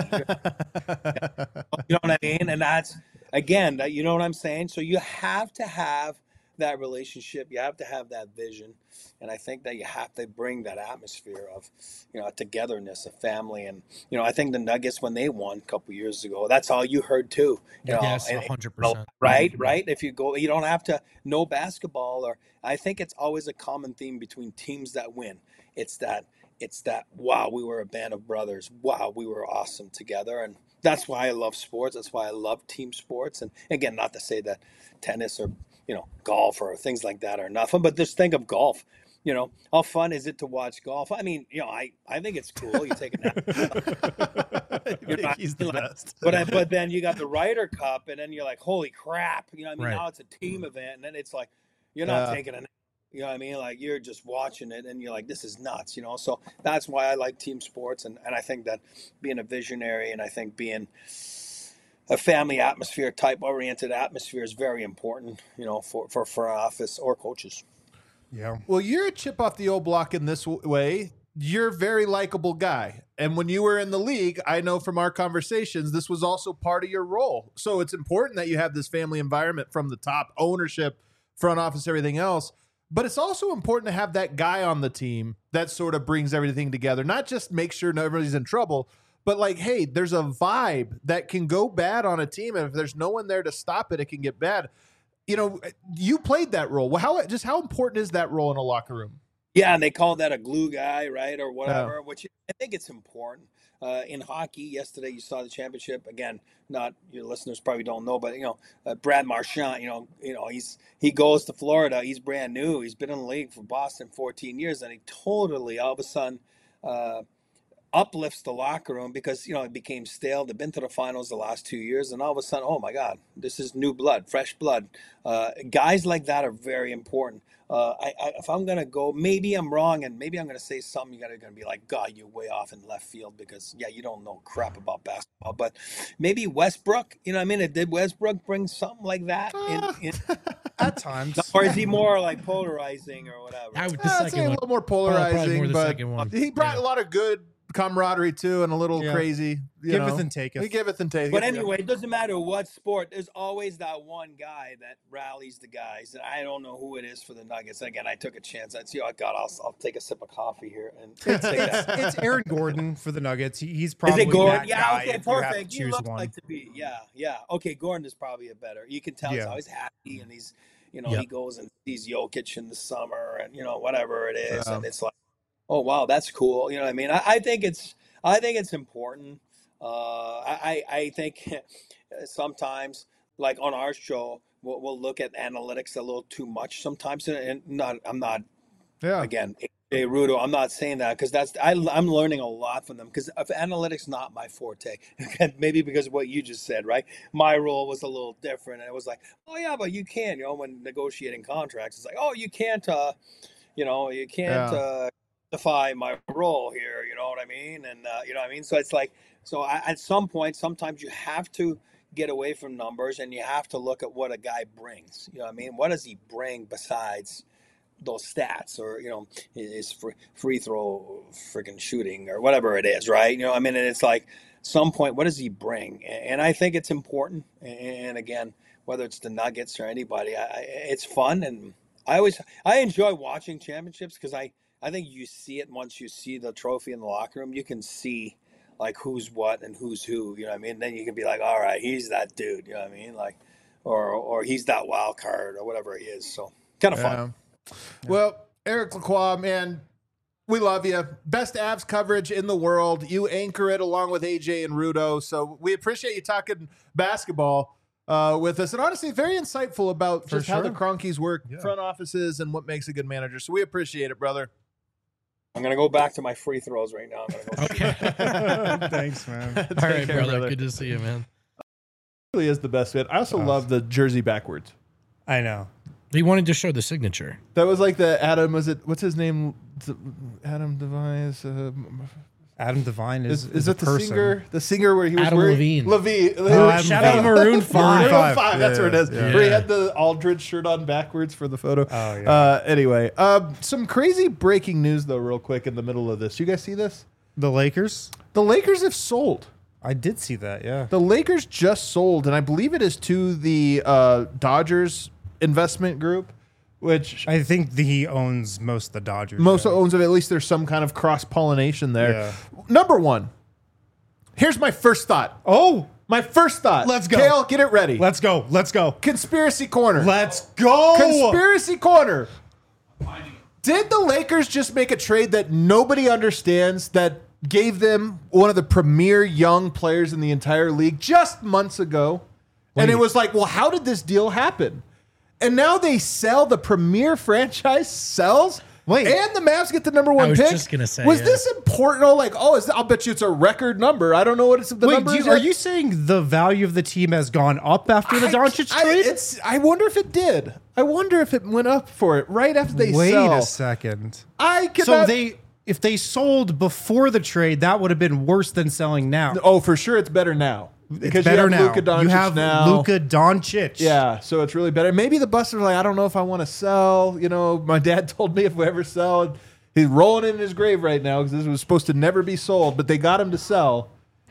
you know what I mean? And that's, again, that, you know what I'm saying? So you have to have that relationship. You have to have that vision. And I think that you have to bring that atmosphere of, you know, togetherness, a family. And, you know, I think the Nuggets, when they won a couple years ago, that's all you heard too. You know, yes, and, one hundred percent. You know, right, right. If you go, you don't have to know basketball. Or I think it's always a common theme between teams that win. It's that, it's that, wow, we were a band of brothers. Wow, we were awesome together. And that's why I love sports. That's why I love team sports. And again, not to say that tennis or, you know, golf or things like that are nothing, but just think of golf. You know, how fun is it to watch golf? I mean, you know, I, I think it's cool. You take a nap. You're not, He's the like, best. but, I, but then you got the Ryder Cup, and then you're like, holy crap. You know what I mean? Right. Now it's a team event, and then it's like, you're not Yeah. taking a nap. You know what I mean? Like, you're just watching it, and you're like, this is nuts, you know? So that's why I like team sports, and, and I think that being a visionary and I think being a family atmosphere, type-oriented atmosphere is very important, you know, for, for front office or coaches. Yeah. Well, you're a chip off the old block in this w- way. You're a very likable guy. And when you were in the league, I know from our conversations, this was also part of your role. So it's important that you have this family environment from the top, ownership, front office, everything else. But it's also important to have that guy on the team that sort of brings everything together, not just make sure nobody's in trouble, but like, hey, there's a vibe that can go bad on a team. And if there's no one there to stop it, it can get bad. You know, you played that role. Well, how just how important is that role in a locker room? Yeah, and they call that a glue guy, right, or whatever, yeah. Which I think it's important. Uh, in hockey, yesterday you saw the championship. Again, not your listeners probably don't know, but you know, uh, Brad Marchand. You know, you know, he's he goes to Florida. He's brand new. He's been in the league for Boston fourteen years, and he totally all of a sudden uh, uplifts the locker room because, you know, it became stale. They've been to the finals the last two years, and all of a sudden, oh my God, this is new blood, fresh blood. Uh, guys like that are very important. Uh, I, I, if I'm going to go, maybe I'm wrong, and maybe I'm going to say something you're going to be like, God, you're way off in left field because, yeah, you don't know crap about basketball. But maybe Westbrook, you know what I mean? Did Westbrook bring something like that? In, in, At times. Or is he more like polarizing or whatever? I would, the I'd second say a one. little more Probably polarizing, more the but second one. he brought Yeah. a lot of good camaraderie too, and a little Yeah. crazy. You Giveth know. and taketh. He giveth and taketh. But anyway, it doesn't matter what sport. There's always that one guy that rallies the guys. And I don't know who it is for the Nuggets. Again, I took a chance. I see. Oh God, I'll, I'll take a sip of coffee here and It's, take it's, that. it's Aaron Gordon for the Nuggets. He, he's Is probably it Gordon? that Yeah. guy Okay. if you have to Perfect. You choose look one. like to be. Yeah. Yeah. Okay. Gordon is probably a better. You can tell he's Yeah. always happy, and he's, you know, Yep. he goes and sees Jokic in the summer, and you know whatever it is, Yeah. and it's like, oh wow, that's cool. You know what I mean? I, I think it's. I think it's important. Uh, I, I think sometimes, like on our show, we'll, we'll look at analytics a little too much sometimes. And not, I'm not, yeah. again, A Rudo, I'm not saying that because that's, I, I'm learning a lot from them because analytics not my forte. Maybe because of what you just said, right? My role was a little different. And it was like, oh yeah, but you can, you know, when negotiating contracts, it's like, oh, you can't, uh, you know, you can't, Yeah. uh, defy my role here, you know what I mean? And, uh, you know what I mean? So it's like, so I, at some point, sometimes you have to get away from numbers and you have to look at what a guy brings. You know what I mean? What does he bring besides those stats or, you know, his free, free throw freaking shooting or whatever it is, right? You know what I mean? And it's like, some point, what does he bring? And I think it's important. And again, whether it's the Nuggets or anybody, I, it's fun. And I always, I enjoy watching championships because I, I think you see it once you see the trophy in the locker room. You can see like who's what and who's who. You know what I mean? Then you can be like, all right, he's that dude. You know what I mean? Like, or or he's that wild card or whatever he is. So kind of fun. Yeah. Well, Eric Lacroix, man, we love you. Best Avs coverage in the world. You anchor it along with A J and Rudo. So we appreciate you talking basketball uh, with us. And honestly, very insightful about For just how the sure. Cronkies work, Yeah. front offices, and what makes a good manager. So we appreciate it, brother. I'm gonna go back to my free throws right now. I'm gonna go shoot. Okay. Thanks, man. All right, care, brother. brother. Good to see you, man. Really is the best fit. I also love the jersey backwards. I know. He wanted to show the signature. That was like the Adam, was it, what's his name? Adam Device. Uh, Adam Devine is is, is a it the person. singer? The singer where he was Adam wearing Levine. Levine. Oh, Adam Shout out Levine. Maroon five. Maroon Five. five, that's Yeah, where it is. yeah. Where he Yeah. had the Aldridge shirt on backwards for the photo. Oh, yeah. Uh, anyway, um, some crazy breaking news though, real quick in the middle of this. You guys see this? The Lakers? The Lakers have sold. I did see that, yeah. The Lakers just sold, and I believe it is to the uh, Dodgers investment group, which I think the, he owns most of the Dodgers. most yeah. owns of. At least there's some kind of cross pollination there. Yeah. Number one. Here's my first thought. Oh, My first thought. Let's go. Kale, get it ready. let's go. Let's go. Conspiracy corner. Let's go. Conspiracy corner. Did the Lakers just make a trade that nobody understands that gave them one of the premier young players in the entire league just months ago? And it Wait. was like, well, how did this deal happen? And now they sell the premier franchise sells. Wait. And the Mavs get the number one I was pick. just gonna say, was yeah. this important? Oh, like, oh, is I'll bet you it's a record number. I don't know what it's the Wait, number do is you, are yet. you saying the value of the team has gone up after the Doncic I, trade? it's, I wonder if it did. I wonder if it went up for it right after they Wait sell. a second. I cannot. So they, if they sold before the trade, that would have been worse than selling now. Oh, for sure, it's better now It's because better you have now. Luka Doncic you have now. Luka Doncic. Yeah, so it's really better. Maybe the Busters are like, I don't know if I want to sell. You know, my dad told me if we ever sell, he's rolling in his grave right now because this was supposed to never be sold, but they got him to sell.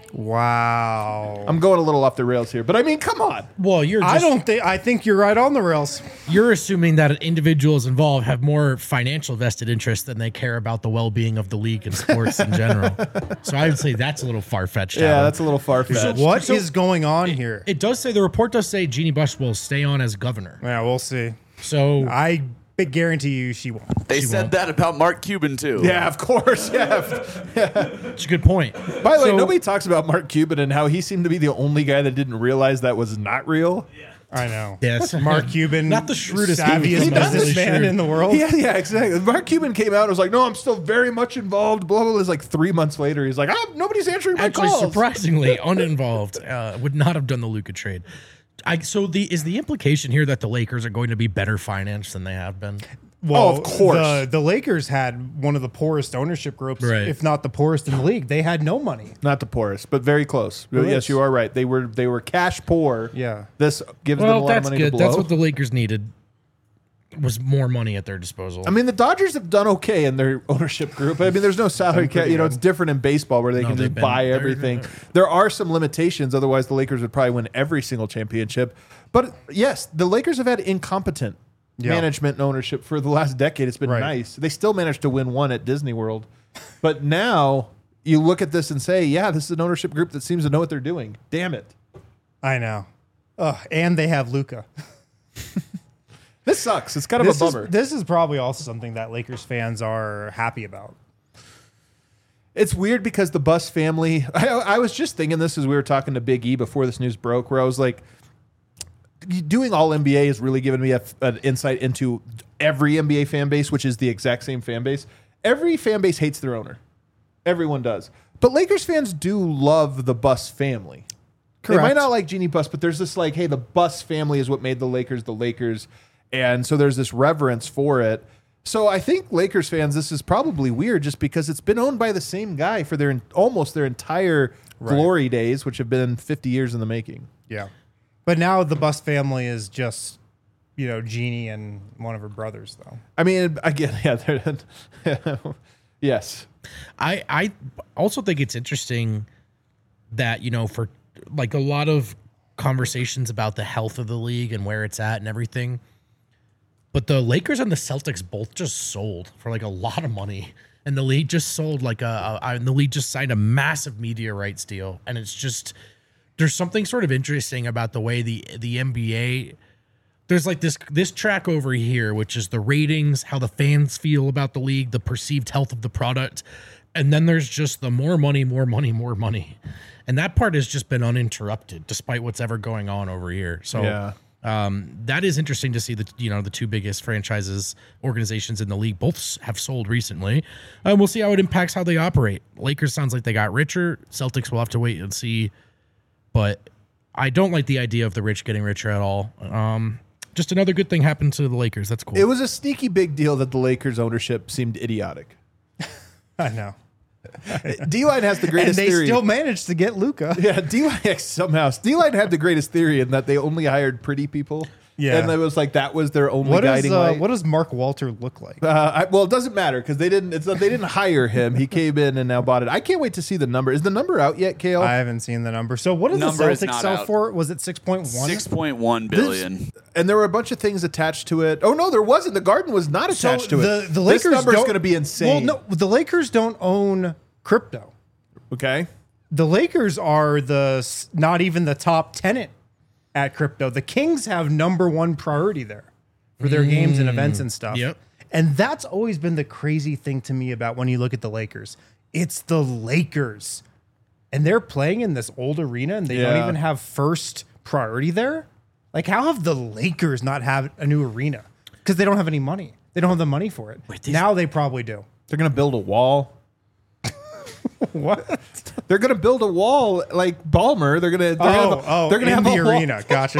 Wow. I'm going a little off the rails here, but I mean, come on. Well, you're just, I don't think. I think you're right on the rails. you're assuming that individuals involved have more financial vested interest than they care about the well-being of the league and sports in general. So I would say that's a little far-fetched. Yeah, Adam. that's a little far fetched. What is so- going on here? It does say the report does say Jeannie Buss will stay on as governor. yeah, we'll see. So I big guarantee you she won't. They She said won't. that about Mark Cuban too. Yeah, of course. Yeah. it's a good point. By the way, So- nobody talks about Mark Cuban and how he seemed to be the only guy that didn't realize that was not real. I know. Yes. Mark Cuban, Not the shrewdest savviest dude. He doesn't- businessman shrewd. in the world. Yeah, yeah, exactly. Mark Cuban came out and was like, "No, I'm still very much involved." Blah blah. blah. It's like three months later, he's like, "Ah, nobody's answering my Actually, calls." surprisingly uninvolved. Uh, would not have done the Luka trade. I, so the is the implication here that the Lakers are going to be better financed than they have been? Well, Oh, of course. The, the Lakers had one of the poorest ownership groups, Right. if not the poorest in the league. They had no money. Not the poorest, but very close. Who yes, is? you are right. They were they were cash poor. Yeah. This gives them a Well, lot that's of money good. to blow. That's what the Lakers needed. Was more money at their disposal. I mean, the Dodgers have done okay in their ownership group. I mean, there's no salary cap. You know, it's different in baseball where they No, can they've just been- buy they're- everything. There are some limitations. Otherwise, the Lakers would probably win every single championship. But yes, the Lakers have had incompetent Yeah. management and ownership for the last decade. It's been Right. nice. They still managed to win one at Disney World. But now you look at this and say, yeah, this is an ownership group that seems to know what they're doing. Damn it. I know. Ugh, and they have Luca. This sucks. It's kind of This a is, bummer. this is probably also something that Lakers fans are happy about. It's weird because the Buss family. I, I was just thinking this as we were talking to Big E before this news broke, where I was like, doing all N B A has really given me a, an insight into every N B A fan base, which is the exact same fan base. Every fan base hates their owner. Everyone does. But Lakers fans do love the Buss family. They might Correct. not like Jeannie Buss, but there's this like, hey, the Buss family is what made the Lakers the Lakers. And so there's this reverence for it. So I think Lakers fans, this is probably weird just because it's been owned by the same guy for their almost their entire glory days, which have been fifty years in the making. Yeah. But now the Buss family is just, you know, Jeannie and one of her brothers, though. I mean, again, yeah, they're- yes. I I also think it's interesting that, you know, for like a lot of conversations about the health of the league and where it's at and everything, but the Lakers and the Celtics both just sold for like a lot of money. And the league just sold like a, a and the league just signed a massive media rights deal. And it's just, there's something sort of interesting about the way the the N B A, there's like this this track over here, which is the ratings, how the fans feel about the league, the perceived health of the product. And then there's just the more money, more money, more money. And that part has just been uninterrupted despite what's ever going on over here. So Yeah. um, that is interesting to see that, you know, the two biggest franchises, organizations in the league both s- have sold recently. And we'll see how it impacts how they operate. Lakers sounds like they got richer. Celtics will have to wait and see. But I don't like the idea of the rich getting richer at all. Um, just another good thing happened to the Lakers. That's cool. It was a sneaky big deal that the Lakers ownership seemed idiotic. I know. D-Line has the And greatest they theory. still managed to get Luka. Yeah, D-Line somehow. D-Line had the greatest theory in that they only hired pretty people. Yeah. And it was like that was their only What does guiding uh, light. what does Mark Walter look like? Uh, I, well, it doesn't matter because they didn't. It's not, they didn't hire him. He came in and now bought it. I can't wait to see the number. Is the number out yet, Kale? I haven't seen the number. So what did the Number is Celtics not sell out. for? Was it six point one? Six point one This- billion. and there were a bunch of things attached to it. Oh no, there wasn't. The Garden was not attached to the, it. The Lakers this number is don't- going to be insane. Well, no, the Lakers don't own crypto. Okay. The Lakers are the s- not even the top tenant at crypto. The Kings have number one priority there for their games and events and stuff. Yep. And that's always been the crazy thing to me about when you look at the Lakers. It's the Lakers. And they're playing in this old arena and they don't Yeah. even have first priority there. Like, how have the Lakers not have a new arena? Because they don't have any money. They don't have the money for it. these- Now they probably do. They're going to build a wall. What? They're going to build a wall like Ballmer. They're going to. They're Oh, gonna, oh, they're going to in have the a wall. arena. Gotcha.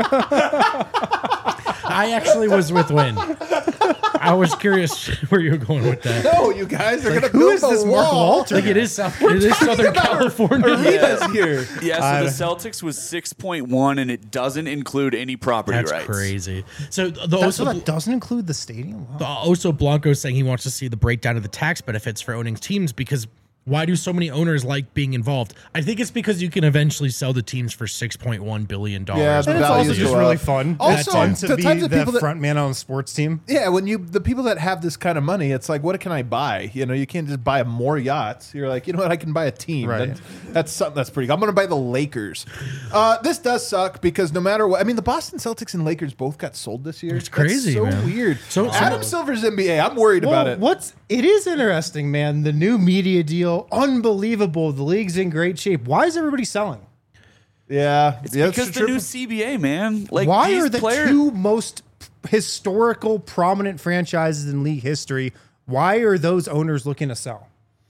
I actually was with Win. I was curious where you were going with that. No, you guys are going to who build is a this wall. Mark Walter? Like it is South, it is Southern about California. Arenas here. Yeah, so the Celtics was six point one, and it doesn't include any property That's rights. crazy. So the That's Oso, what that doesn't include the stadium. Wow. the Oso Blanco is saying he wants to see the breakdown of the tax benefits for owning teams because why do so many owners like being involved? I think it's because you can eventually sell the teams for six point one billion dollars. Yeah, And it's values also just go really up. fun. Also, it's fun to the be types of the people that- front man on a sports team. Yeah, when you the people that have this kind of money, it's like, what can I buy? You know, you can't just buy more yachts. You're like, you know what? I can buy a team. Right. That- that's something that's pretty good. I'm going to buy the Lakers. Uh, this does suck because no matter what, I mean, the Boston Celtics and Lakers both got sold this year. It's crazy, That's so man. weird. So- So so- Adam Silver's N B A. I'm worried about Well, it. what's it is interesting, man. The new media deal, unbelievable. The league's in great shape. Why is everybody selling? Yeah, It's yeah, because that's the true. new C B A, man. Like Why these are the players, two most historical, prominent franchises in league history? Why are those owners looking to sell?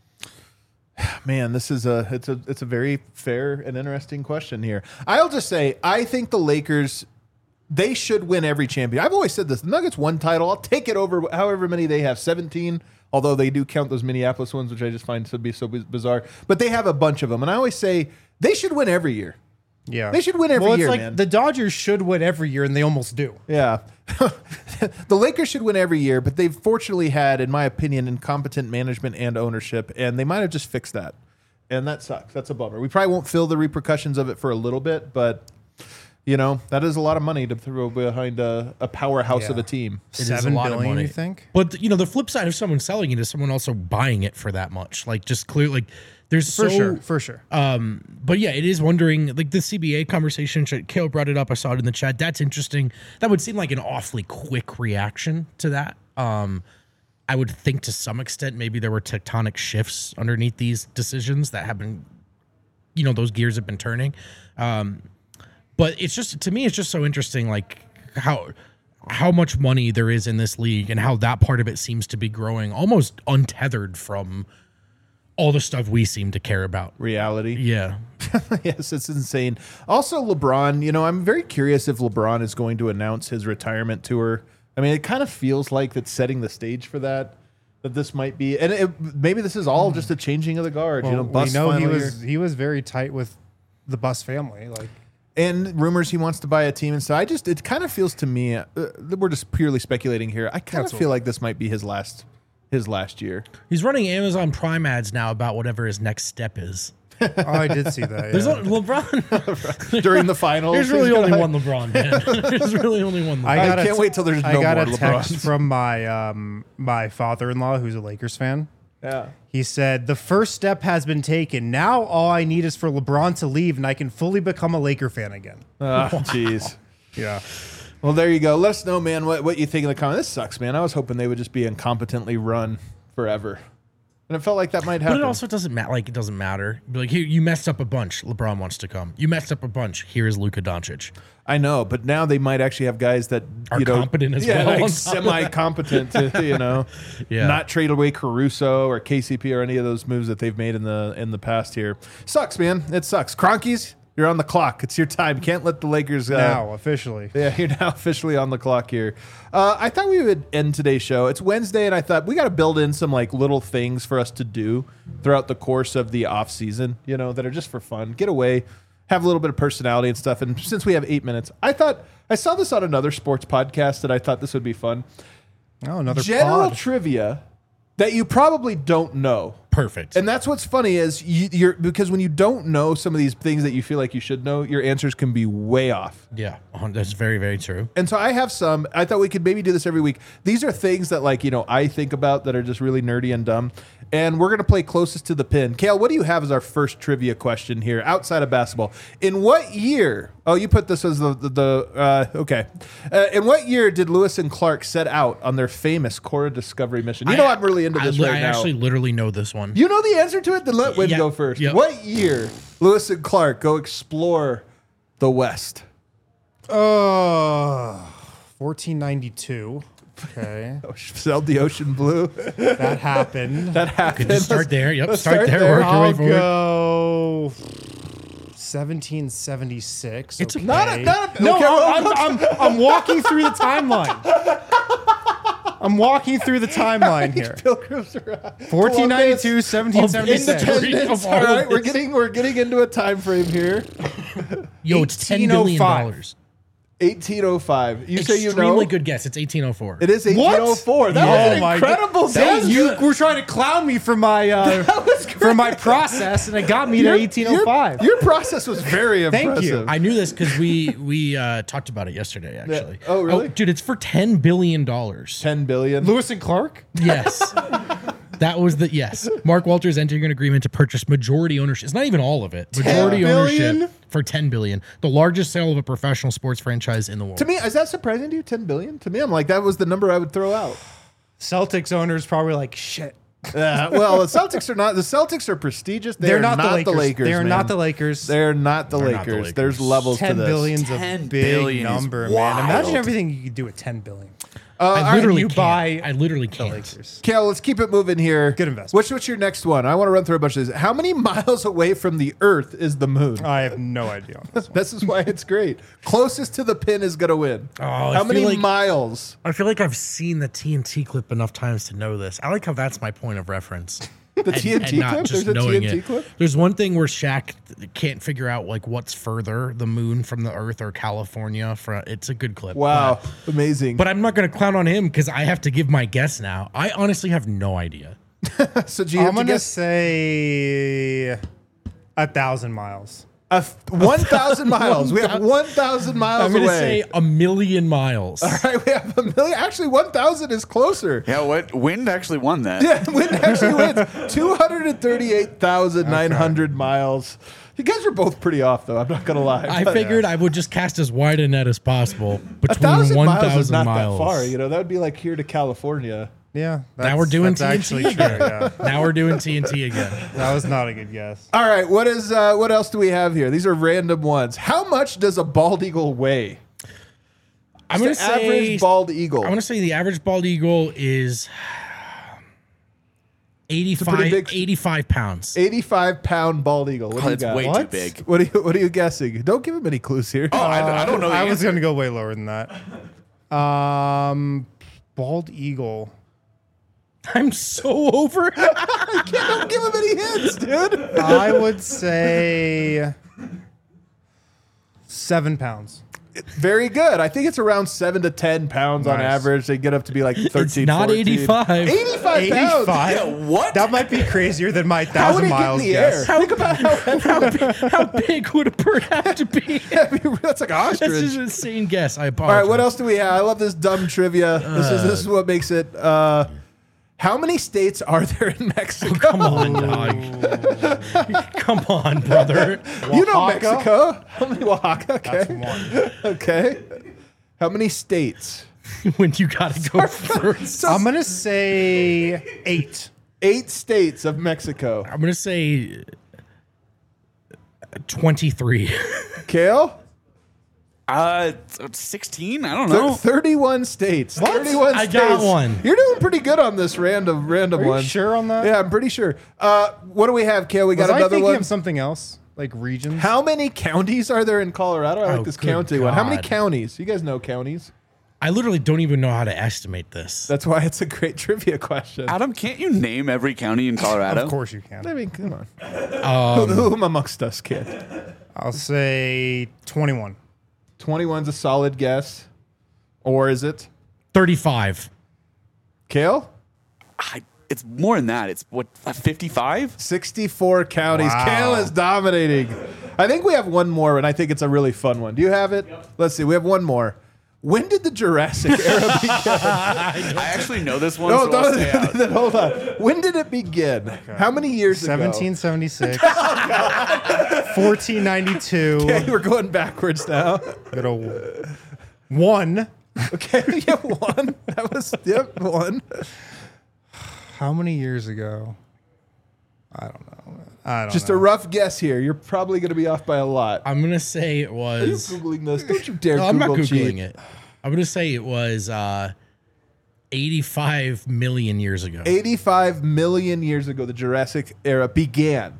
Man, this is a it's a it's a very fair and interesting question here. I'll just say I think the Lakers they should win every champion. I've always said this. The Nuggets won title. I'll take it over however many they have, seventeen, although they do count those Minneapolis ones, which I just find to be so biz- bizarre. But they have a bunch of them. And I always say they should win every year. Yeah, They should win every well, it's year, like man. the Dodgers should win every year, and they almost do. Yeah. The Lakers should win every year, but they've fortunately had, in my opinion, incompetent management and ownership, and they might have just fixed that. And that sucks. That's a bummer. We probably won't feel the repercussions of it for a little bit, but you know, that is a lot of money to throw behind a, a powerhouse Yeah. of a team. It is Seven a lot of billion, money. you think? But you know, the flip side of someone selling it is someone also buying it for that much. Like just clear, like there's For so, sure, for sure. Um, but yeah, it is wondering like the C B A conversation. Kale brought it up. I saw it in the chat. That's interesting. That would seem like an awfully quick reaction to that. Um, I would think to some extent maybe there were tectonic shifts underneath these decisions that have been, you know, those gears have been turning. Um, but it's just to me, it's just so interesting, like how how much money there is in this league and how that part of it seems to be growing almost untethered from all the stuff we seem to care about. Reality. Yeah. Yes, it's insane. Also, LeBron, you know, I'm very curious if LeBron is going to announce his retirement tour. I mean, it kind of feels like it's setting the stage for that, that this might be, and it, maybe this is all just a changing of the guard. Well, you know, we Bus know he final was year. he was very tight with the Bus family. Like, And rumors he wants to buy a team and so I just it kind of feels to me uh, we're just purely speculating here. I kind That's of feel what- like this might be his last his last year. He's running Amazon Prime ads now about whatever his next step is. Oh, I did see that. There's yeah. a, LeBron. during the finals. There's really he's only gonna- one LeBron, man. There's really only one LeBron. I got I a can't t- wait till there's I no got more a text LeBrons. from my um my father-in-law, who's a Lakers fan. Yeah. He said, the first step has been taken. Now all I need is for LeBron to leave and I can fully become a Laker fan again. Oh, jeez. Yeah. Well, there you go. Let us know, man, what, what you think in the comments. This sucks, man. I was hoping they would just be incompetently run forever. And it felt like that might happen. But it also doesn't matter. Like, it doesn't matter. Be like, here, you messed up a bunch. LeBron wants to come. You messed up a bunch. Here is Luka Doncic. I know, but now they might actually have guys that Are you know, competent as yeah, well on like top of semi-competent to you know, Yeah. not trade away Caruso or K C P or any of those moves that they've made in the in the past here. Sucks, man. It sucks. Cronkies, you're on the clock. It's your time. Can't let the Lakers uh, Now, officially. Yeah, you're now officially on the clock here. Uh, I thought we would end today's show. It's Wednesday, and I thought we got to build in some like little things for us to do throughout the course of the off season. You know, that are just for fun. Get away, have a little bit of personality and stuff. And since we have eight minutes, I thought I saw this on another sports podcast that I thought this would be fun. Oh, another General pod. trivia that you probably don't know. Perfect. And that's what's funny is you, you're because when you don't know some of these things that you feel like you should know, your answers can be way off. yeah, that's very, very true. And so I have some. I thought we could maybe do this every week. These are things that, like, you know, I think about that are just really nerdy and dumb. And we're going to play closest to the pin. Kale, what do you have as our first trivia question here outside of basketball? In what year? Oh, you put this as the, the, the uh, okay. Uh, in what year did Lewis and Clark set out on their famous Cora Discovery mission? You know, I, am really into this I, right I now. actually literally know this one. You know the answer to it? Then let Win Yeah. go first. Yep. What year Lewis and Clark go explore the West? Uh, fourteen ninety-two. Okay. Sailed the ocean blue. That happened. That happened. Just start there. Yep, let's start, start there. there. Work your way I'll forward. go seventeen seventy-six. It's okay. Not a- not a- no, okay, I'm, well, I'm, I'm, I'm walking through the timeline. I'm walking through the timeline here. Pilgrims Arrive. fourteen ninety-two, seventeen seventy-six. Independence. Of all All of right, we're this. getting we're getting into a time frame here. Yo, it's ten billion dollars. eighteen oh five. You say you Extremely know? good guess. It's eighteen oh four. It is eighteen oh four. That Oh was an my incredible God. guess. You were trying to clown me for my uh, for my process, and it got me to Your- eighteen oh five. Your, your process was very Thank impressive. you. I knew this because we we uh, talked about it yesterday. Actually. Oh, really? dude, it's for ten billion dollars. ten billion. Lewis and Clark. Yes. That was the yes. Mark Walters entering an agreement to purchase majority ownership. It's not even all of it. Majority billion? ownership for ten billion. The largest sale of a professional sports franchise in the world. To me, is that surprising to you? ten billion? To me, I'm like, that was the number I would throw out. Celtics owners probably like shit. Uh, well, the Celtics are not. The Celtics are prestigious. They They're are not, not, the Lakers. the Lakers. They're man. not the Lakers. They're not the, They're Lakers. not the Lakers. There's levels ten to this. billion's a ten big billion is number, man. wild. Imagine everything you could do with ten billion. Uh, I all right, literally you can't. buy I literally The can't. Lakers. Kale, let's keep it moving here. Good investment. What's, what's your next one? I want to run through a bunch of these. How many miles away from the Earth is the moon? I have no idea on this one. This is why it's great. Closest to the pin is going to win. Oh, I How many feel like- miles? I feel like I've seen the T N T clip enough times to know this. I like how that's my point of reference. The T N T and not clip? just There's a knowing T N T it. clip? There's one thing where Shaq Oh, can't figure out like what's further, the moon from the Earth or California. From it's a good clip. Wow. But, Amazing. but I'm not going to clown on him because I have to give my guess now. I honestly have no idea. so do you have I'm to gonna guess say a thousand miles. a th- one thousand miles? We have one thousand miles I'm going to away. say a million miles. All right, we have a million. Actually, one thousand is closer. Yeah, what? Wind actually won that. Yeah, Wind actually wins. two hundred thirty-eight thousand nine hundred miles. You guys are both pretty off, though. I'm not going to lie. I But figured I would just cast as wide a net as possible a between thousand one miles is thousand not miles. that far. You know, that would be like here to California. Yeah. Now we're doing that's T N T actually true. again. Yeah. Now we're doing T N T again. That was not a good guess. All right, what is uh, what else do we have here? These are random ones. How much does a bald eagle weigh? I'm going to The say average bald eagle. I want to say the average bald eagle is eighty-five, big- eighty-five pounds. eighty-five pound bald eagle. What Oh, do you that's got? way too What? big. What are you What are you guessing? Don't give him any clues here. Oh, I, I don't know. the I was answer. going to go way lower than that. Um, bald eagle. I'm so over it. Don't give him any hints, dude. I would say seven pounds. Very good. I think it's around seven to ten pounds on Nice. average. They get up to be like thirteen. It's not fourteen. eighty-five. eighty-five pounds. eighty-five. Yeah, what? That might be crazier than my How would thousand it get in miles the guess. air? How, Think about how heavy. how, big, how big would a bird have to be? That's like an That's ostrich. just an insane guess. I All apologize. right, what else do we have? I love this dumb trivia. This is this is what makes it. Uh, how many states are there in Mexico? Come on, dog. Come on, brother. You know Oaxaca? Mexico. How many Oaxaca? Okay. That's one. Okay. How many states? When you gotta go first. I'm gonna say eight. Eight states of Mexico. I'm gonna say twenty-three. Kale? Uh, sixteen? I don't Thir- know. thirty-one states. thirty-one I states. got one. You're doing pretty good on this random random Are you one. sure on that? Yeah, I'm pretty sure. Uh, what do we have, Kale? We got Was I another thinking one. of something else, like regions? How many counties are there in Colorado? I like Oh, this good county one. How many God. counties? You guys know counties. I literally don't even know how to estimate this. That's why it's a great trivia question. Adam, can't you name every county in Colorado? Of course you can. I mean, come on. Um, who, who amongst us, kid? I'll say twenty-one. twenty-one's a solid guess. Or is it? thirty-five. Kale? I, it's more than that. It's what, fifty-five? sixty-four counties. Wow. Kale is dominating. I think we have one more, and I think it's a really fun one. Do you have it? Let's see. We have one more. When did the Jurassic era begin? I actually know this one, No, so I'll stay out. don't, hold on. When did it begin? How many years seventeen ago? seventy-six. fourteen ninety-two. Okay, we're going backwards now. Got a one. Okay, yeah, one. That was, yep, one. How many years ago? I don't know. I don't Just know. a rough guess here. You're probably going to be off by a lot. I'm gonna say it Are you was. Googling this? Don't you dare No, I'm not Google googling cheat. it. I'm gonna say it was uh, eighty-five million years ago. eighty-five million years ago, the Jurassic era began.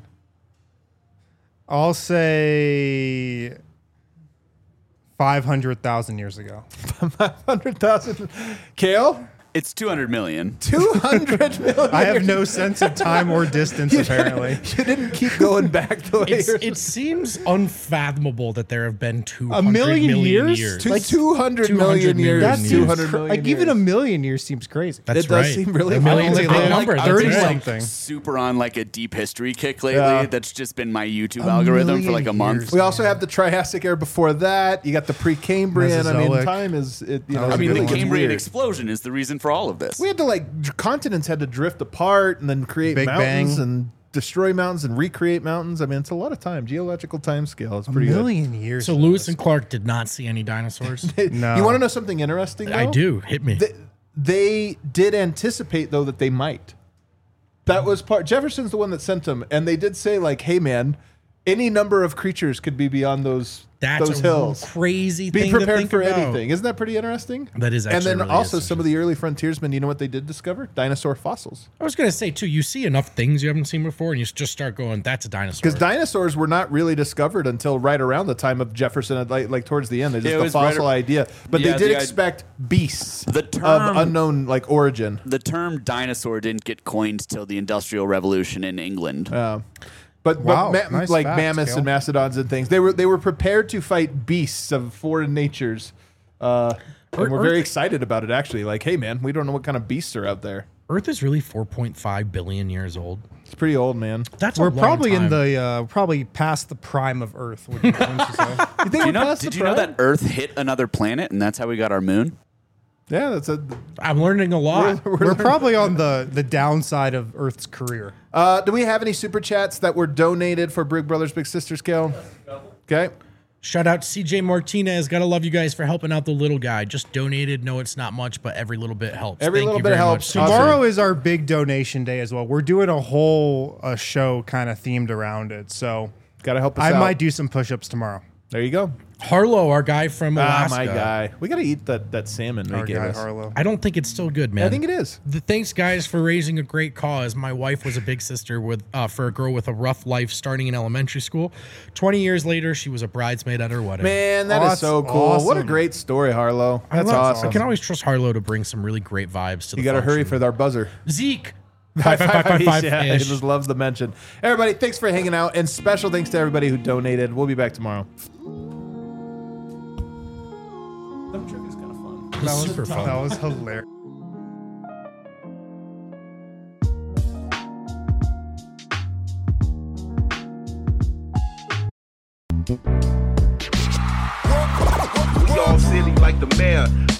I'll say five hundred thousand years ago. five hundred thousand. Kale? It's two hundred million. two hundred million. I have no sense of time or distance, apparently. You didn't keep going back the way It's, you're it seems unfathomable that there have been two A hundred million years? years. to like two hundred 200 million years. million That years. two seems hundred cr- million like even a years. million years seems crazy. That's It does right. seem really a far. million's a Only big live number. That's thirty right. something. Super on like a deep history kick lately. Yeah. That's just been my YouTube A algorithm for like a million month. years. We also have the Triassic era before that. You got the Precambrian. I mean, Mesozoic. time is it. You That know, was I it mean, really the gets Cambrian weird. explosion is the reason for all of this. We had to like dr- continents had to drift apart and then create Big mountains Bang. and destroy mountains and recreate mountains. I mean, it's a lot of time. Geological time scale. It's A pretty million years. So Lewis and Clark did not see any dinosaurs. good. No. You want to know something interesting? I though? do. Hit me. They, they did anticipate though that they might. That was part. Jefferson's the one that sent them, and they did say like, "Hey, man, any number of creatures could be beyond those That's those a hills. crazy Be thing to prepared think for about. anything." Isn't that pretty interesting? That is And actually then really also is some of the early frontiersmen. You know what they did discover? Dinosaur fossils. I was gonna say too. You see enough things you haven't seen before, and you just start going, "That's a dinosaur." Because dinosaurs were not really discovered until right around the time of Jefferson, like, like towards the end. They Yeah, just it the was right fossil ar- idea, but Yeah, they did the i- expect beasts The of term- unknown like origin. The term dinosaur didn't get coined till the Industrial Revolution in England. Uh, but Wow, but ma- nice like facts, mammoths Kale. and mastodons and things, they were they were prepared to fight beasts of foreign natures. Uh, and Earth- we're very Earth- excited about it. Actually, like, hey man, we don't know what kind of beasts are out there. Earth is really four point five billion years old. It's pretty old, man. That's a We're long probably time. in the uh, probably past the prime of Earth. Would you, wouldn't you say? You think Do you we're know, past did the you know prime? that Earth hit another planet and that's how we got our moon? Yeah, that's a. I'm learning a lot. We're probably on the the downside of Earth's career. Uh, do we have any super chats that were donated for Big Brothers Big Sisters scale? Okay. Shout out to C J Martinez. Gotta love you guys for helping out the little guy. Just donated. No, it's not much, but every little bit helps. Every Thank little you bit very helps. much. Awesome. Tomorrow is our big donation day as well. We're doing a whole uh, show kind of themed around it. So Got to help us I out. might do some push-ups tomorrow. There you go. Harlow, our guy from Ah, Alaska. my guy. We got to eat that, that salmon they Our gave guy us. Harlow. I don't think it's still good, man. I think it is. The thanks, guys, for raising a great cause. My wife was a big sister with uh, for a girl with a rough life starting in elementary school. Twenty years later, she was a bridesmaid at her wedding. Man, that is That's so cool. What a awesome. great story, Harlow. I That's love- awesome. I can always trust Harlow to bring some really great vibes to the You got to hurry function. for our buzzer. Zeke. Five, five, five, five, five, Yeah, he ish. just loves the mention. Everybody, thanks for hanging out, and special thanks to everybody who donated. We'll be back tomorrow. Dumb trivia's kind of fun. That was Super fun. That was hilarious. We all silly like the mayor.